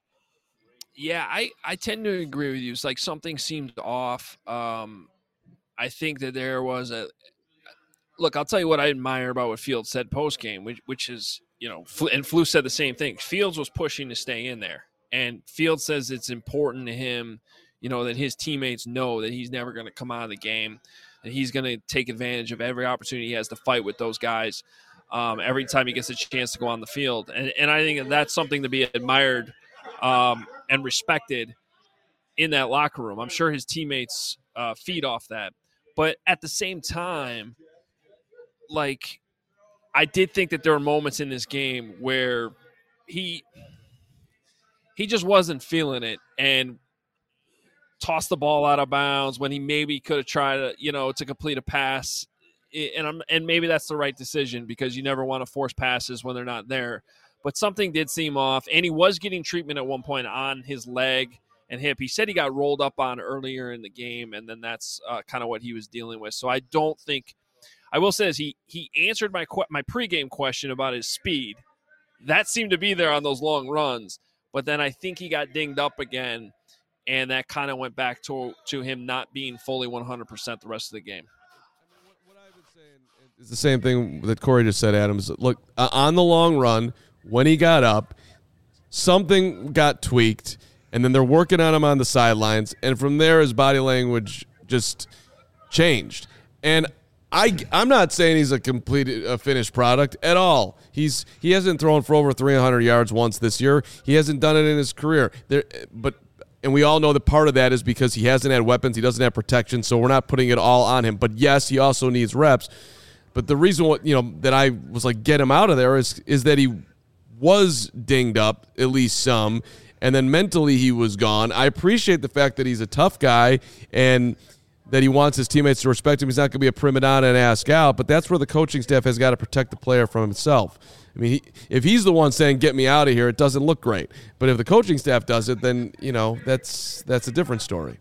Yeah, I, I tend to agree with you. It's like something seemed off. Um, I think that there was a – look, I'll tell you what I admire about what Fields said post-game, which, which is – you know, and Flus said the same thing. Fields was pushing to stay in there. And Fields says it's important to him, you know, that his teammates know that he's never going to come out of the game, and he's going to take advantage of every opportunity he has to fight with those guys um, every time he gets a chance to go on the field. And, and I think that's something to be admired um, and respected in that locker room. I'm sure his teammates uh, feed off that. But at the same time, like – I did think that there were moments in this game where he he just wasn't feeling it and tossed the ball out of bounds when he maybe could have tried to, you know, to complete a pass. And I'm, and maybe that's the right decision because you never want to force passes when they're not there. But something did seem off, and he was getting treatment at one point on his leg and hip. He said he got rolled up on earlier in the game, and then that's uh, kind of what he was dealing with. So I don't think – I will say this, he he answered my my pregame question about his speed. That seemed to be there on those long runs, but then I think he got dinged up again, and that kind of went back to to him not being fully one hundred percent the rest of the game. I mean, what, what I've been saying is the same thing that Corey just said, Adams. Look, uh, on the long run, when he got up, something got tweaked, and then they're working on him on the sidelines, and from there his body language just changed. And I, I'm not saying he's a complete, a finished product at all. He's he hasn't thrown for over three hundred yards once this year. He hasn't done it in his career. There, but and we all know that part of that is because he hasn't had weapons. He doesn't have protection, so we're not putting it all on him. But yes, he also needs reps. But the reason what you know that I was like get him out of there is is that he was dinged up at least some, and then mentally he was gone. I appreciate the fact that he's a tough guy and that he wants his teammates to respect him. He's not going to be a prima donna and ask out, but that's where the coaching staff has got to protect the player from himself. I mean, he, if he's the one saying, get me out of here, it doesn't look great. But if the coaching staff does it, then, you know, that's that's a different story.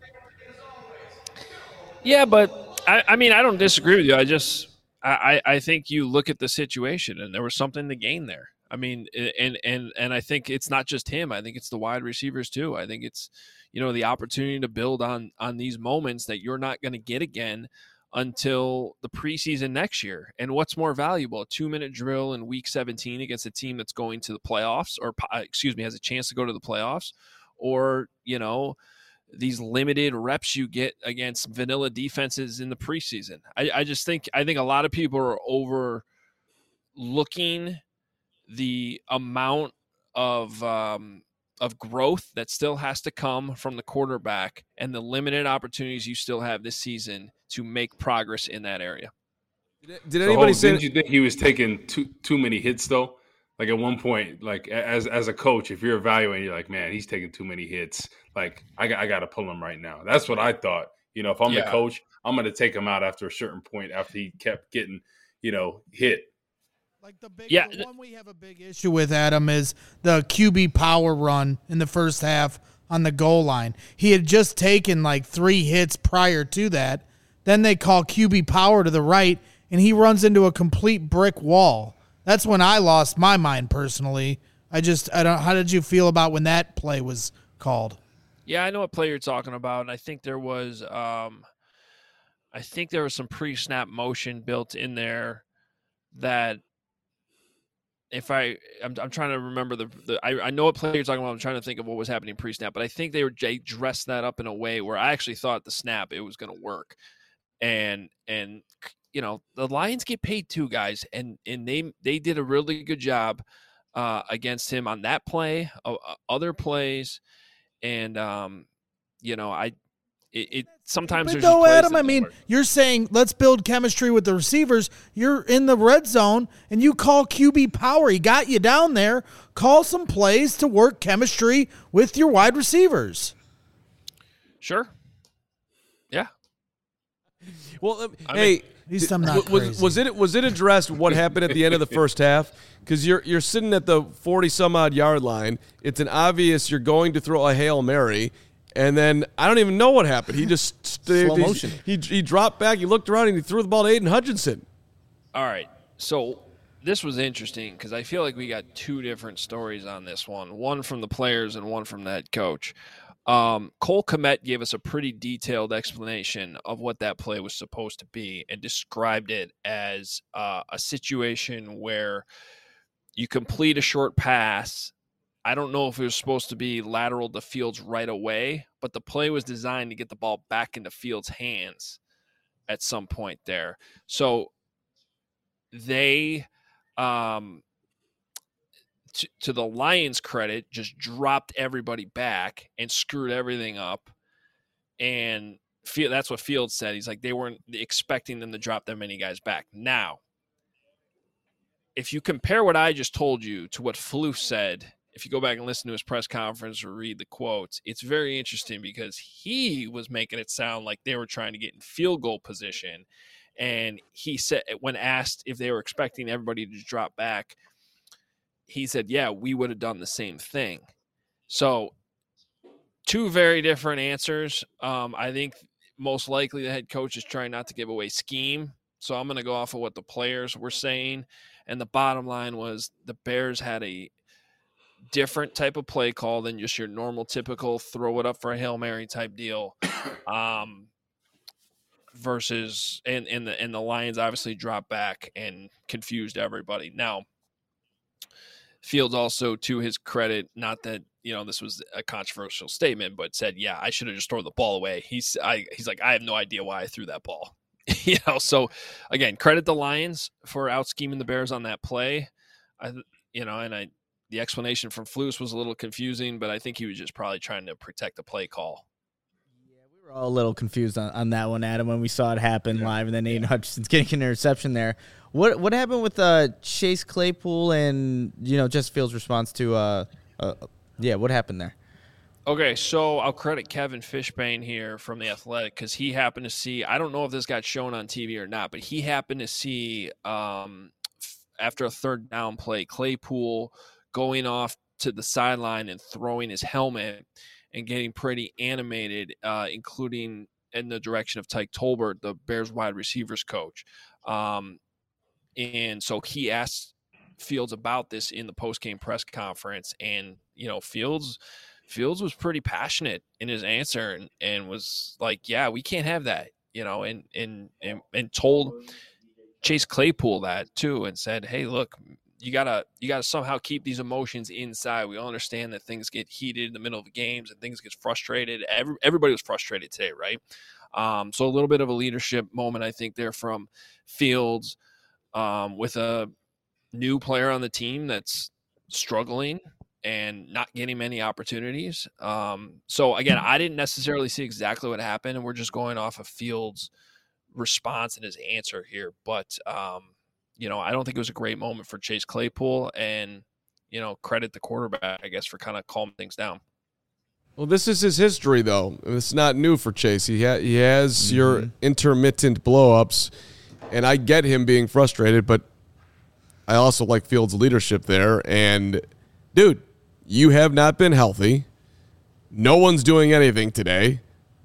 Yeah, but, I, I mean, I don't disagree with you. I just I, I think you look at the situation, and there was something to gain there. I mean, and and and I think it's not just him. I think it's the wide receivers too. I think it's, you know, the opportunity to build on on these moments that you're not going to get again until the preseason next year. And what's more valuable, a two-minute drill in week seventeen against a team that's going to the playoffs, or excuse me, has a chance to go to the playoffs, or, you know, these limited reps you get against vanilla defenses in the preseason. I, I just think I think a lot of people are overlooking the amount of um, of growth that still has to come from the quarterback and the limited opportunities you still have this season to make progress in that area. Did, did anybody so, say? Didn't you think he was taking too too many hits though? Like at one point, like as as a coach, if you're evaluating, you're like, man, he's taking too many hits. Like I got I got to pull him right now. That's what I thought. You know, if I'm Yeah. the coach, I'm going to take him out after a certain point after he kept getting, you know, hit. Like the big Yeah. the one we have a big issue with, Adam, is the Q B power run in the first half on the goal line. He had just taken like three hits prior to that. Then they call Q B power to the right, and he runs into a complete brick wall. That's when I lost my mind personally. I just I don't. How did you feel about when that play was called? Yeah, I know what play you're talking about, and I think there was, um, I think there was some pre-snap motion built in there that, if I, I'm, I'm trying to remember the, the I, I know what play you're talking about. I'm trying to think of what was happening pre-snap, but I think they were they dressed that up in a way where I actually thought the snap it was going to work, and and you know the Lions get paid too, guys, and and they they did a really good job uh, against him on that play, uh, other plays. And, um, you know, I it, it sometimes But there's though, just plays Adam, that I don't mean, work. you're saying let's build chemistry with the receivers. You're in the red zone, and you call Q B power. He got you down there. Call some plays to work chemistry with your wide receivers. Sure. Yeah. Well, um, I hey, mean, At least did- I'm not was, crazy. was it was it addressed what happened at the end of the first half? Because you're you're sitting at the forty some odd yard line. It's an obvious you're going to throw a Hail Mary, and then I don't even know what happened. He just st- Slow he- motion. He, he dropped back. He looked around and he threw the ball to Aiden Hutchinson. All right. So this was interesting because I feel like we got two different stories on this one, one from the players and one from the head coach. Um, Cole Kmet gave us a pretty detailed explanation of what that play was supposed to be and described it as uh, a situation where you complete a short pass. I don't know if it was supposed to be lateral to Fields right away, but the play was designed to get the ball back into Fields' hands at some point there. So they, um, to, to the Lions' credit, just dropped everybody back and screwed everything up. And Field, that's what Fields said. He's like, they weren't expecting them to drop that many guys back. Now, if you compare what I just told you to what Floof said, if you go back and listen to his press conference or read the quotes, it's very interesting because he was making it sound like they were trying to get in field goal position. And he said, when asked if they were expecting everybody to drop back, he said, yeah, we would have done the same thing. So two very different answers. Um, I think most likely the head coach is trying not to give away scheme. So I'm going to go off of what the players were saying. And the bottom line was the Bears had a different type of play call than just your normal, typical throw it up for a Hail Mary type deal. Um, versus and, and the and the Lions obviously dropped back and confused everybody. Now, Fields also, to his credit, not that you know this was a controversial statement, but said, "Yeah, I should have just thrown the ball away." He's I he's like, I have no idea why I threw that ball. you know, so again, credit the Lions for out scheming the Bears on that play. I you know, and I the explanation from Flus was a little confusing, but I think he was just probably trying to protect the play call. We were all a little confused on, on that one, Adam, when we saw it happen yeah. live, and then Aiden Hutchinson's getting an interception there. What what happened with uh, Chase Claypool and you know Justin Fields' response to uh, uh yeah what happened there? Okay, so I'll credit Kevin Fishbane here from The Athletic because he happened to see, I don't know if this got shown on T V or not, but he happened to see um, f- after a third down play, Claypool going off to the sideline and throwing his helmet and getting pretty animated, uh, including in the direction of Tyke Tolbert, the Bears wide receivers coach. Um, and so he asked Fields about this in the post-game press conference, and, you know, Fields – Fields was pretty passionate in his answer and, and was like, yeah, we can't have that, you know, and, and, and, and told Chase Claypool that too, and said, hey, look, you gotta, you gotta somehow keep these emotions inside. We all understand that things get heated in the middle of the games and things get frustrated. Every, everybody was frustrated today. Right. Um, so a little bit of a leadership moment, I think, there from Fields um, with a new player on the team that's struggling and not getting many opportunities. Um, so, again, I didn't necessarily see exactly what happened, and we're just going off of Fields' response and his answer here. But, um, you know, I don't think it was a great moment for Chase Claypool, and, you know, credit the quarterback, I guess, for kind of calming things down. Well, this is his history, though. It's not new for Chase. He, ha- he has mm-hmm. your intermittent blow-ups, and I get him being frustrated, but I also like Fields' leadership there. And, dude, you have not been healthy. No one's doing anything today.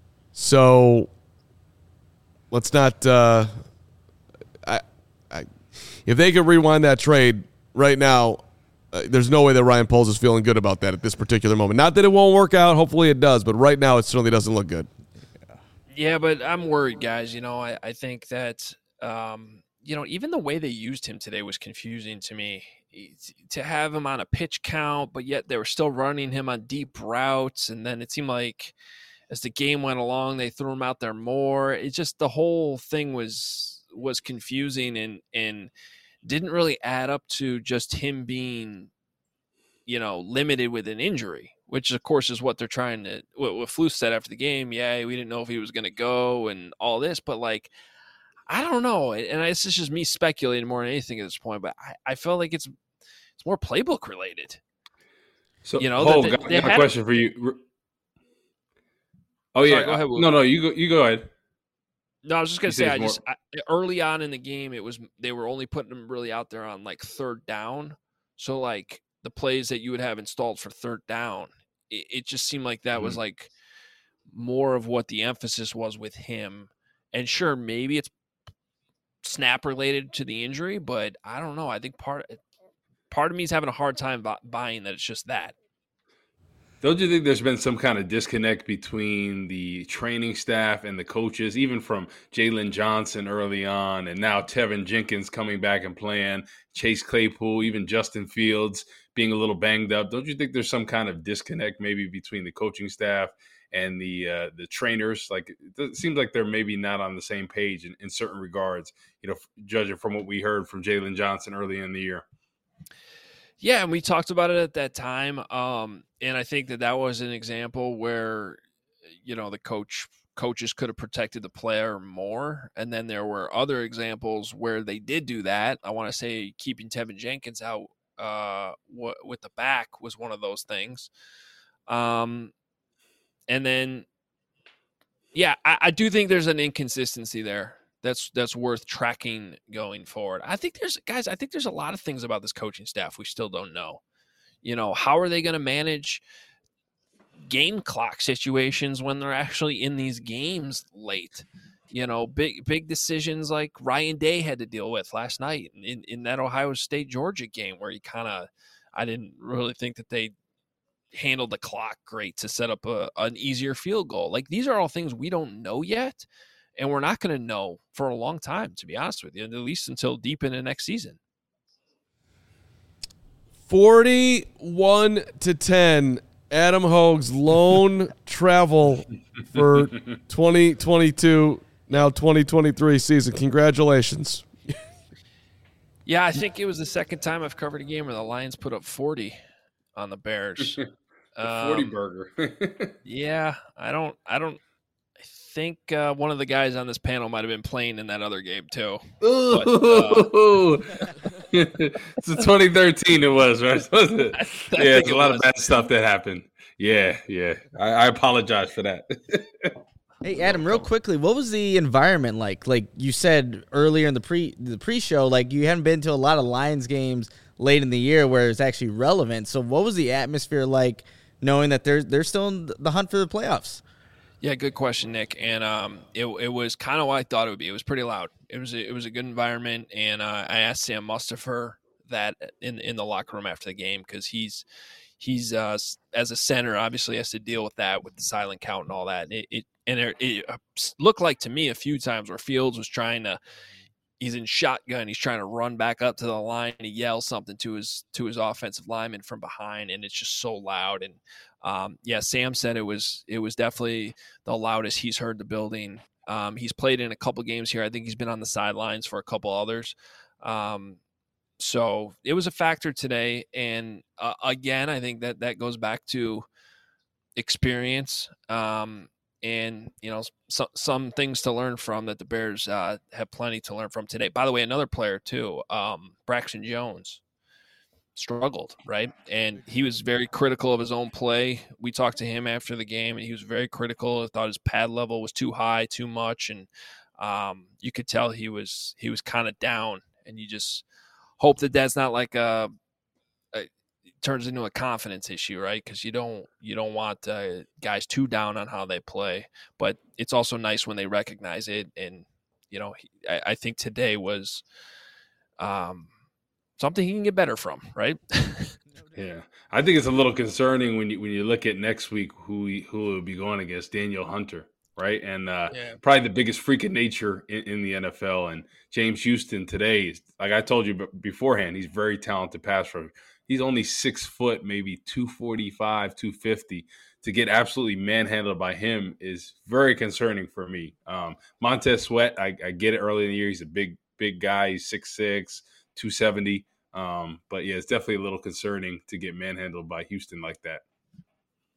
So let's not uh, I, I, if they could rewind that trade right now, uh, there's no way that Ryan Poles is feeling good about that at this particular moment. Not that it won't work out. Hopefully it does. But right now it certainly doesn't look good. Yeah, but I'm worried, guys. You know, I, I think that, um, you know, even the way they used him today was confusing to me. To have him on a pitch count, but yet they were still running him on deep routes. And then it seemed like as the game went along, they threw him out there more. It just, the whole thing was, was confusing and, and didn't really add up to just him being, you know, limited with an injury, which of course is what they're trying to. What, what Flus said after the game, yeah, we didn't know if he was going to go and all this, but like, I don't know, and this is just me speculating more than anything at this point. But I, I feel like it's it's more playbook related. So, you know, Hole, they, got, they got a question for you. Oh Sorry, yeah, go ahead, Will. no, no, you go, you go ahead. No, I was just gonna You say, say I it's just I, early on in the game, it was they were only putting them really out there on like third down. So like the plays that you would have installed for third down, it, it just seemed like that mm-hmm. was like more of what the emphasis was with him. And sure, maybe it's snap related to the injury, but I don't know. I think part part of me is having a hard time bu- buying that it's just that. Don't you think there's been some kind of disconnect between the training staff and the coaches, even from Jalen Johnson early on, and now Tevin Jenkins coming back and playing, Chase Claypool, even Justin Fields being a little banged up? Don't you think there's some kind of disconnect maybe between the coaching staff and the uh, the trainers? Like it seems like they're maybe not on the same page in, in certain regards, you know, judging from what we heard from Jalen Johnson early in the year. Yeah, and we talked about it at that time, um, and I think that that was an example where, you know, the coach coaches could have protected the player more, and then there were other examples where they did do that. I want to say keeping Tevin Jenkins out uh, w- with the back was one of those things, um, and then, yeah, I, I do think there's an inconsistency there. That's that's worth tracking going forward. I think there's guys. I think there's a lot of things about this coaching staff we still don't know. You know, how are they going to manage game clock situations when they're actually in these games late? You know, big big decisions like Ryan Day had to deal with last night in, in that Ohio State Georgia game where he kind of, I didn't really think that they handled the clock great to set up a, an easier field goal. Like these are all things we don't know yet. And we're not going to know for a long time, to be honest with you, at least until deep into next season. forty-one to ten, Adam Hoge's lone travel for twenty twenty-two, now twenty twenty-three season. Congratulations. Yeah, I think it was the second time I've covered a game where the Lions put up forty on the Bears. the um, forty burger. yeah, I don't, I don't. I think uh, one of the guys on this panel might have been playing in that other game too. But, uh, it's a twenty thirteen. It was right. Was it? I, I yeah, it's a it lot was. of bad stuff that happened. Yeah, yeah. I, I apologize for that. Hey Adam, real quickly, what was the environment like? Like you said earlier in the pre the pre-show, like you hadn't been to a lot of Lions games late in the year where it's actually relevant. So what was the atmosphere like, knowing that they're they're still in the hunt for the playoffs? Yeah, good question, Nick. And um, it it was kind of what I thought it would be. It was pretty loud. It was a, it was a good environment, and uh, I asked Sam Mustipher that in in the locker room after the game because he's he's uh, as a center obviously has to deal with that with the silent count and all that. And it, it and it, it looked like to me a few times where Fields was trying to. He's in shotgun. He's trying to run back up to the line and he yells something to his to his offensive lineman from behind, and it's just so loud. And um, yeah, Sam said it was it was definitely the loudest he's heard the building. Um, he's played in a couple games here. I think he's been on the sidelines for a couple others. Um, so it was a factor today. And uh, again, I think that that goes back to experience. Um, And, you know, so, some things to learn from that the Bears uh, have plenty to learn from today. By the way, another player, too, um, Braxton Jones, struggled, right? And he was very critical of his own play. We talked to him after the game, and he was very critical. He thought his pad level was too high, too much. And um, you could tell he was he was kind of down. And you just hope that that's not like a – turns into a confidence issue, right? Because you don't you don't want uh, guys too down on how they play, but it's also nice when they recognize it. And you know, he, I, I think today was um, something he can get better from, right? Yeah, I think it's a little concerning when you when you look at next week who he, who will be going against Daniel Hunter, right? And uh, yeah. probably the biggest freak of nature in, in the N F L. And James Houston today, like I told you beforehand, he's very talented pass rusher. He's only six foot, maybe two forty-five, two fifty. To get absolutely manhandled by him is very concerning for me. Um, Montez Sweat, I, I get it early in the year. He's a big, big guy. He's six six, two seventy. Um, but, yeah, it's definitely a little concerning to get manhandled by Houston like that.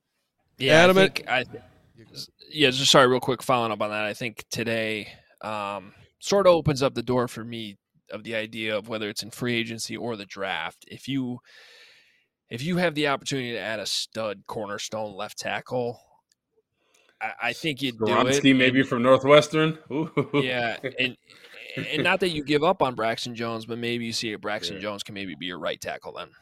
Yeah, Adam, I think I, yeah, just sorry, real quick, following up on that. I think today um, sort of opens up the door for me of the idea of whether it's in free agency or the draft. If you if you have the opportunity to add a stud cornerstone left tackle, I, I think you'd do it. Skoronski maybe and, from Northwestern. Ooh. Yeah, and and not that you give up on Braxton Jones, but maybe you see if Braxton yeah. Jones can maybe be your right tackle then.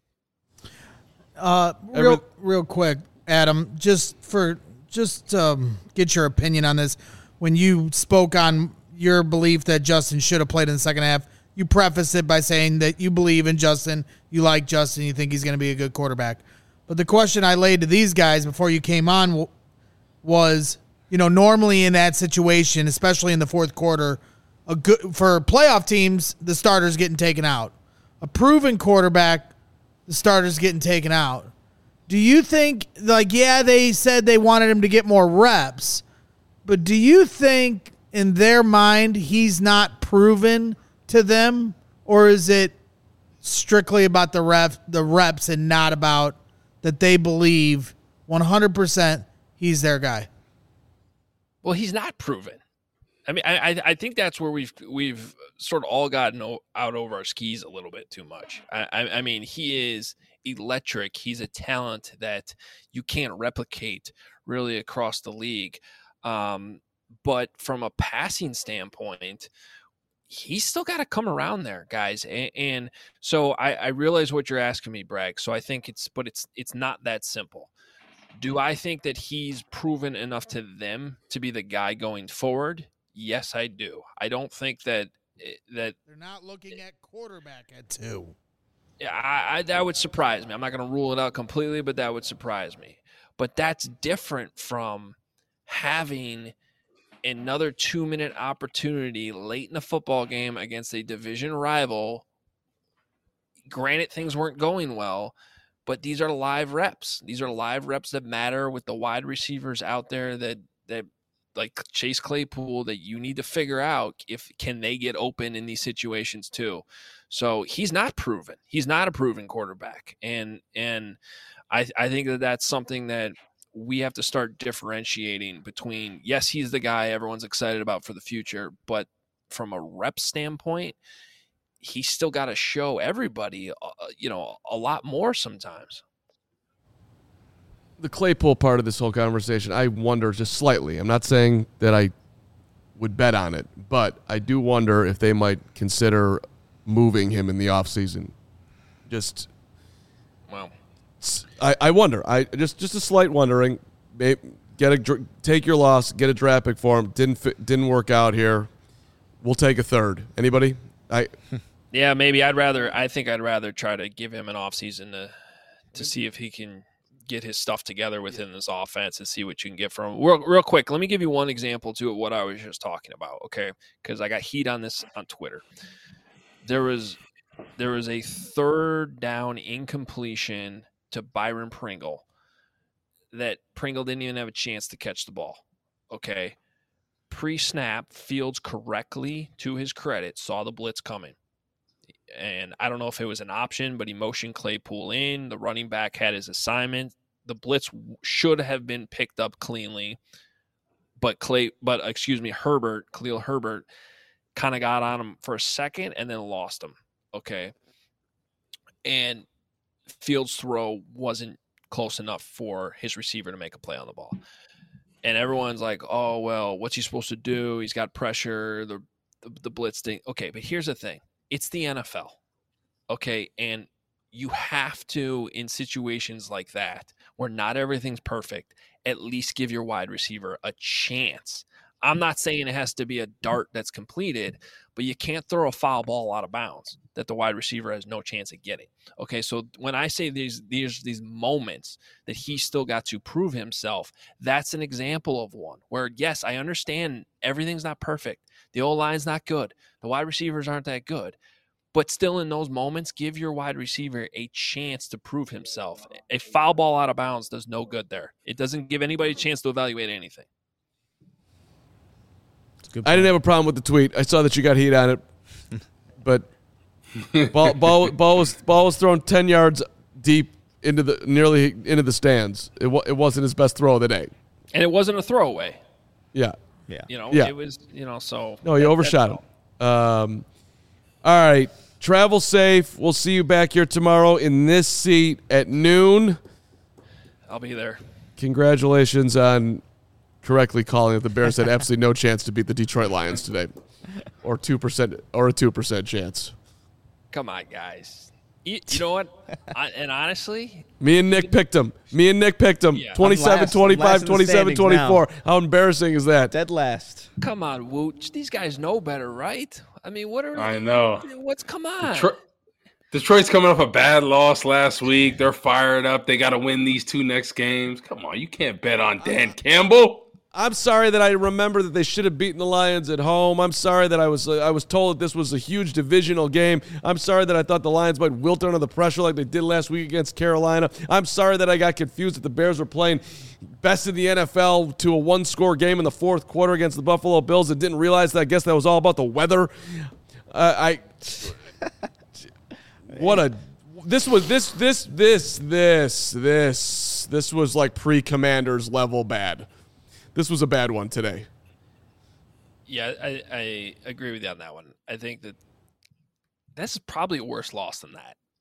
Uh, real real quick, Adam, just for just um, get your opinion on this. When you spoke on your belief that Justin should have played in the second half, you prefaced it by saying that you believe in Justin, you like Justin, you think he's going to be a good quarterback. But the question I laid to these guys before you came on was, you know, normally in that situation, especially in the fourth quarter, a good for playoff teams, the starter's getting taken out. A proven quarterback, the starter's getting taken out. Do you think, like, yeah, they said they wanted him to get more reps, but do you think in their mind he's not proven to them, or is it strictly about the ref, the reps and not about that they believe one hundred percent he's their guy? Well, he's not proven. I mean, I I think that's where we've we've sort of all gotten out over our skis a little bit too much. I, I mean, he is electric. He's a talent that you can't replicate really across the league. Um, but from a passing standpoint, he's still got to come around there, guys. And, and so I, I realize what you're asking me, Bragg. So I think it's, but it's it's not that simple. Do I think that he's proven enough to them to be the guy going forward? Yes, I do. I don't think that that they're not looking at quarterback at two. Yeah, I, I, that would surprise me. I'm not going to rule it out completely, but that would surprise me. But that's different from having another two-minute opportunity late in a football game against a division rival. Granted, things weren't going well, but these are live reps. These are live reps that matter with the wide receivers out there that that. like Chase Claypool, that you need to figure out if can they get open in these situations too. So he's not proven. He's not a proven quarterback. And and I, I think that that's something that we have to start differentiating between, yes, he's the guy everyone's excited about for the future, but from a rep standpoint, he's still got to show everybody, uh, you know, a lot more sometimes. The Claypool part of this whole conversation, I wonder just slightly. I'm not saying that I would bet on it, but I do wonder if they might consider moving him in the offseason. Just, wow. I, I wonder. I just just a slight wondering. Maybe get a take your loss, get a draft pick for him. Didn't fit, didn't work out here. We'll take a third. Anybody? I. Yeah, maybe I'd rather. I think I'd rather try to give him an offseason to to see if he can get his stuff together within this offense and see what you can get from him. Real, real quick, let me give you one example too of what I was just talking about, okay? Because I got heat on this on Twitter. There was there was a third down incompletion to Byron Pringle that Pringle didn't even have a chance to catch the ball, okay? Pre-snap, Fields correctly, to his credit, saw the blitz coming. And I don't know if it was an option, but he motioned Claypool in. The running back had his assignment. The blitz should have been picked up cleanly, but Clay, but excuse me, Herbert, Khalil Herbert, kind of got on him for a second and then lost him. Okay, and Fields' throw wasn't close enough for his receiver to make a play on the ball. And everyone's like, "Oh well, what's he supposed to do? He's got pressure. The the, the blitz thing." Okay, but here's the thing. It's the N F L, okay? And you have to, in situations like that, where not everything's perfect, at least give your wide receiver a chance. I'm not saying it has to be a dart that's completed, but you can't throw a foul ball out of bounds that the wide receiver has no chance of getting. Okay, so when I say these these these moments that he still got to prove himself, that's an example of one where, yes, I understand everything's not perfect. The O-line's not good. The wide receivers aren't that good. But still in those moments, give your wide receiver a chance to prove himself. A foul ball out of bounds does no good there. It doesn't give anybody a chance to evaluate anything. I didn't have a problem with the tweet. I saw that you got heat on it. But ball, ball, ball, was, ball was thrown ten yards deep into the nearly into the stands. It wa- it wasn't his best throw of the day. And it wasn't a throwaway. Yeah. Yeah. You know, Yeah. it was, you know, so. No, he that- overshot him. Um, all right. Travel safe. We'll see you back here tomorrow in this seat at noon. I'll be there. Congratulations on correctly calling that the Bears had absolutely no chance to beat the Detroit Lions today. Or two percent or a two percent chance. Come on, guys. You, you know what? I, and honestly, Me and Nick picked him. Me and Nick picked him. Yeah. twenty-seven I'm last. I'm twenty-five, last in the twenty-seven twenty-four. How embarrassing is that? Dead last. come on, Woot. These guys know better, right? I mean, what are I know. What's come on? Detroit, Detroit's coming off a bad loss last week. They're fired up. They got to win these two next games. Come on, you can't bet on Dan Campbell. I'm sorry that I remember that they should have beaten the Lions at home. I'm sorry that I was uh, I was told that this was a huge divisional game. I'm sorry that I thought the Lions might wilt under the pressure like they did last week against Carolina. I'm sorry that I got confused that the Bears were playing best in the N F L to a one-score game in the fourth quarter against the Buffalo Bills and didn't realize that I guess that was all about the weather. Uh, I what a this was this this this this this this was like pre-Commanders level bad. This was a bad one today. Yeah, I, I agree with you on that one. I think that this is probably a worse loss than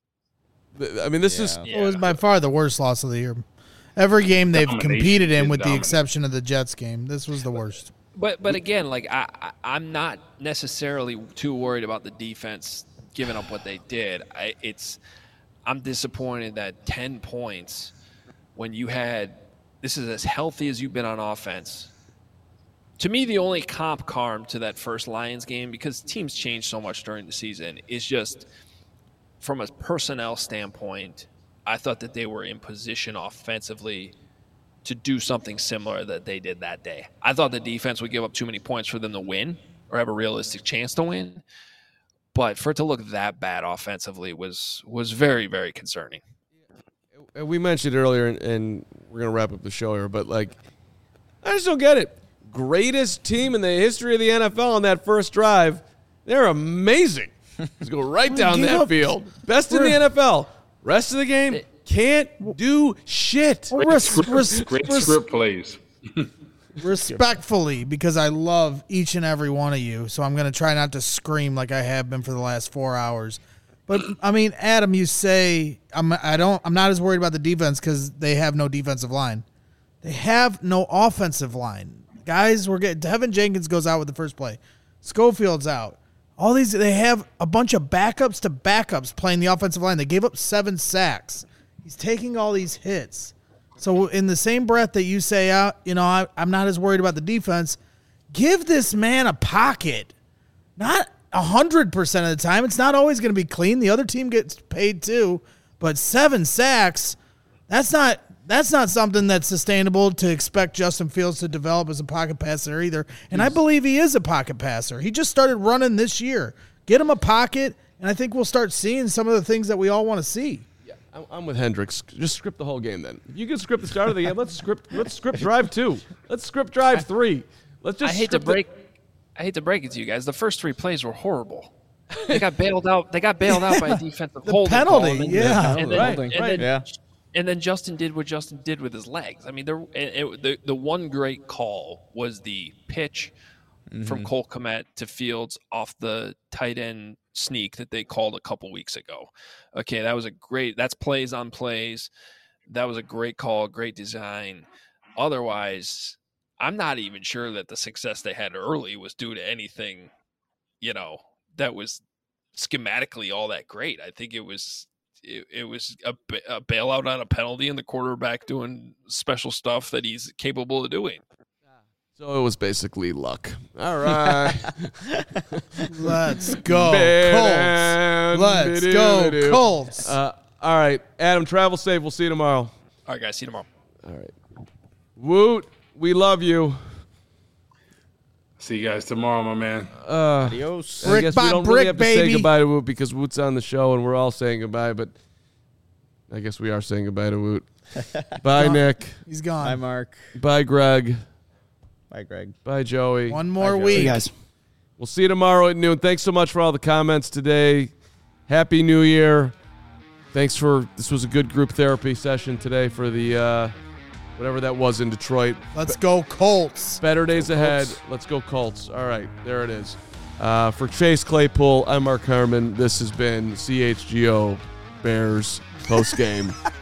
that. I mean, this Yeah. is Yeah. It was by far the worst loss of the year. Every game they've Domination, competed in, did with the dominate. exception of the Jets game, this was the worst. But but again, like I, I I'm not necessarily too worried about the defense giving up what they did. I it's I'm disappointed that ten points when you had this is as healthy as you've been on offense. To me, the only comp carm to that first Lions game, because teams change so much during the season, is just from a personnel standpoint, I thought that they were in position offensively to do something similar that they did that day. I thought the defense would give up too many points for them to win or have a realistic chance to win. But for it to look that bad offensively was was very, very concerning. we mentioned earlier, and, and we're gonna wrap up the show here, but like, I just don't get it. Greatest team in the history of the N F L on that first drive. They're amazing. Just go right down Give that up. field. Best in the N F L. Rest of the game can't do shit. Res- res- Great res- script plays. respectfully, because I love each and every one of you, so I'm going to try not to scream like I have been for the last four hours. But I mean, Adam, you say I'm I don't I'm not as worried about the defense because they have no defensive line. They have no offensive line. Guys, we're getting Tevin Jenkins goes out with the first play. Schofield's out. All these they have a bunch of backups to backups playing the offensive line. They gave up seven sacks. He's taking all these hits. So in the same breath that you say, uh, you know, I, I'm not as worried about the defense, give this man a pocket. Not one hundred percent of the time. It's not always going to be clean. The other team gets paid too. But seven sacks, that's not that's not something that's sustainable to expect Justin Fields to develop as a pocket passer either. And I believe he is a pocket passer. He just started running this year. Get him a pocket, and I think we'll start seeing some of the things that we all want to see. I'm- I'm with Hendricks. Just script the whole game then. If you can script the start of the game, let's script let's script drive two. Let's script drive three. Let's just I hate to script the- break I hate to break it to you guys. The first three plays were horrible. They got bailed out. They got bailed out by a defensive The holding penalty, call, and then- yeah. and then, Right, and right. then- Yeah. And then Justin did what Justin did with his legs. I mean, there it, it, the the one great call was the pitch from Cole Kmet to Fields off the tight end sneak that they called a couple weeks ago. Okay, that was a great. That's plays on plays. That was a great call, great design. Otherwise, I'm not even sure that the success they had early was due to anything, you know, that was schematically all that great. I think it was. It, it was a, ba- a bailout on a penalty and the quarterback doing special stuff that he's capable of doing. So it was basically luck. All right. Let's go, Man, Colts. Let's bidoo, go, bidoo. Colts. Uh, all right, Adam, travel safe. We'll see you tomorrow. All right, guys, see you tomorrow. All right. Woot, we love you. See you guys tomorrow, my man. Adios. I Brick guess by we don't brick, really have to say baby. goodbye to Woot because Woot's on the show and we're all saying goodbye, but I guess we are saying goodbye to Woot. Bye, Nick. He's Bye, gone. Mark. Bye, Greg. Bye, Greg. Bye, Joey. One more Joey. See week. you guys. We'll see you tomorrow at noon. Thanks so much for all the comments today. Happy New Year. thanks for this was a good group therapy session today for the uh, whatever that was in Detroit. Let's go Colts. Better days Go ahead. Colts. Let's go Colts. All right, there it is. Uh, for Chase Claypool, I'm Mark Harmon. This has been C H G O Bears post game.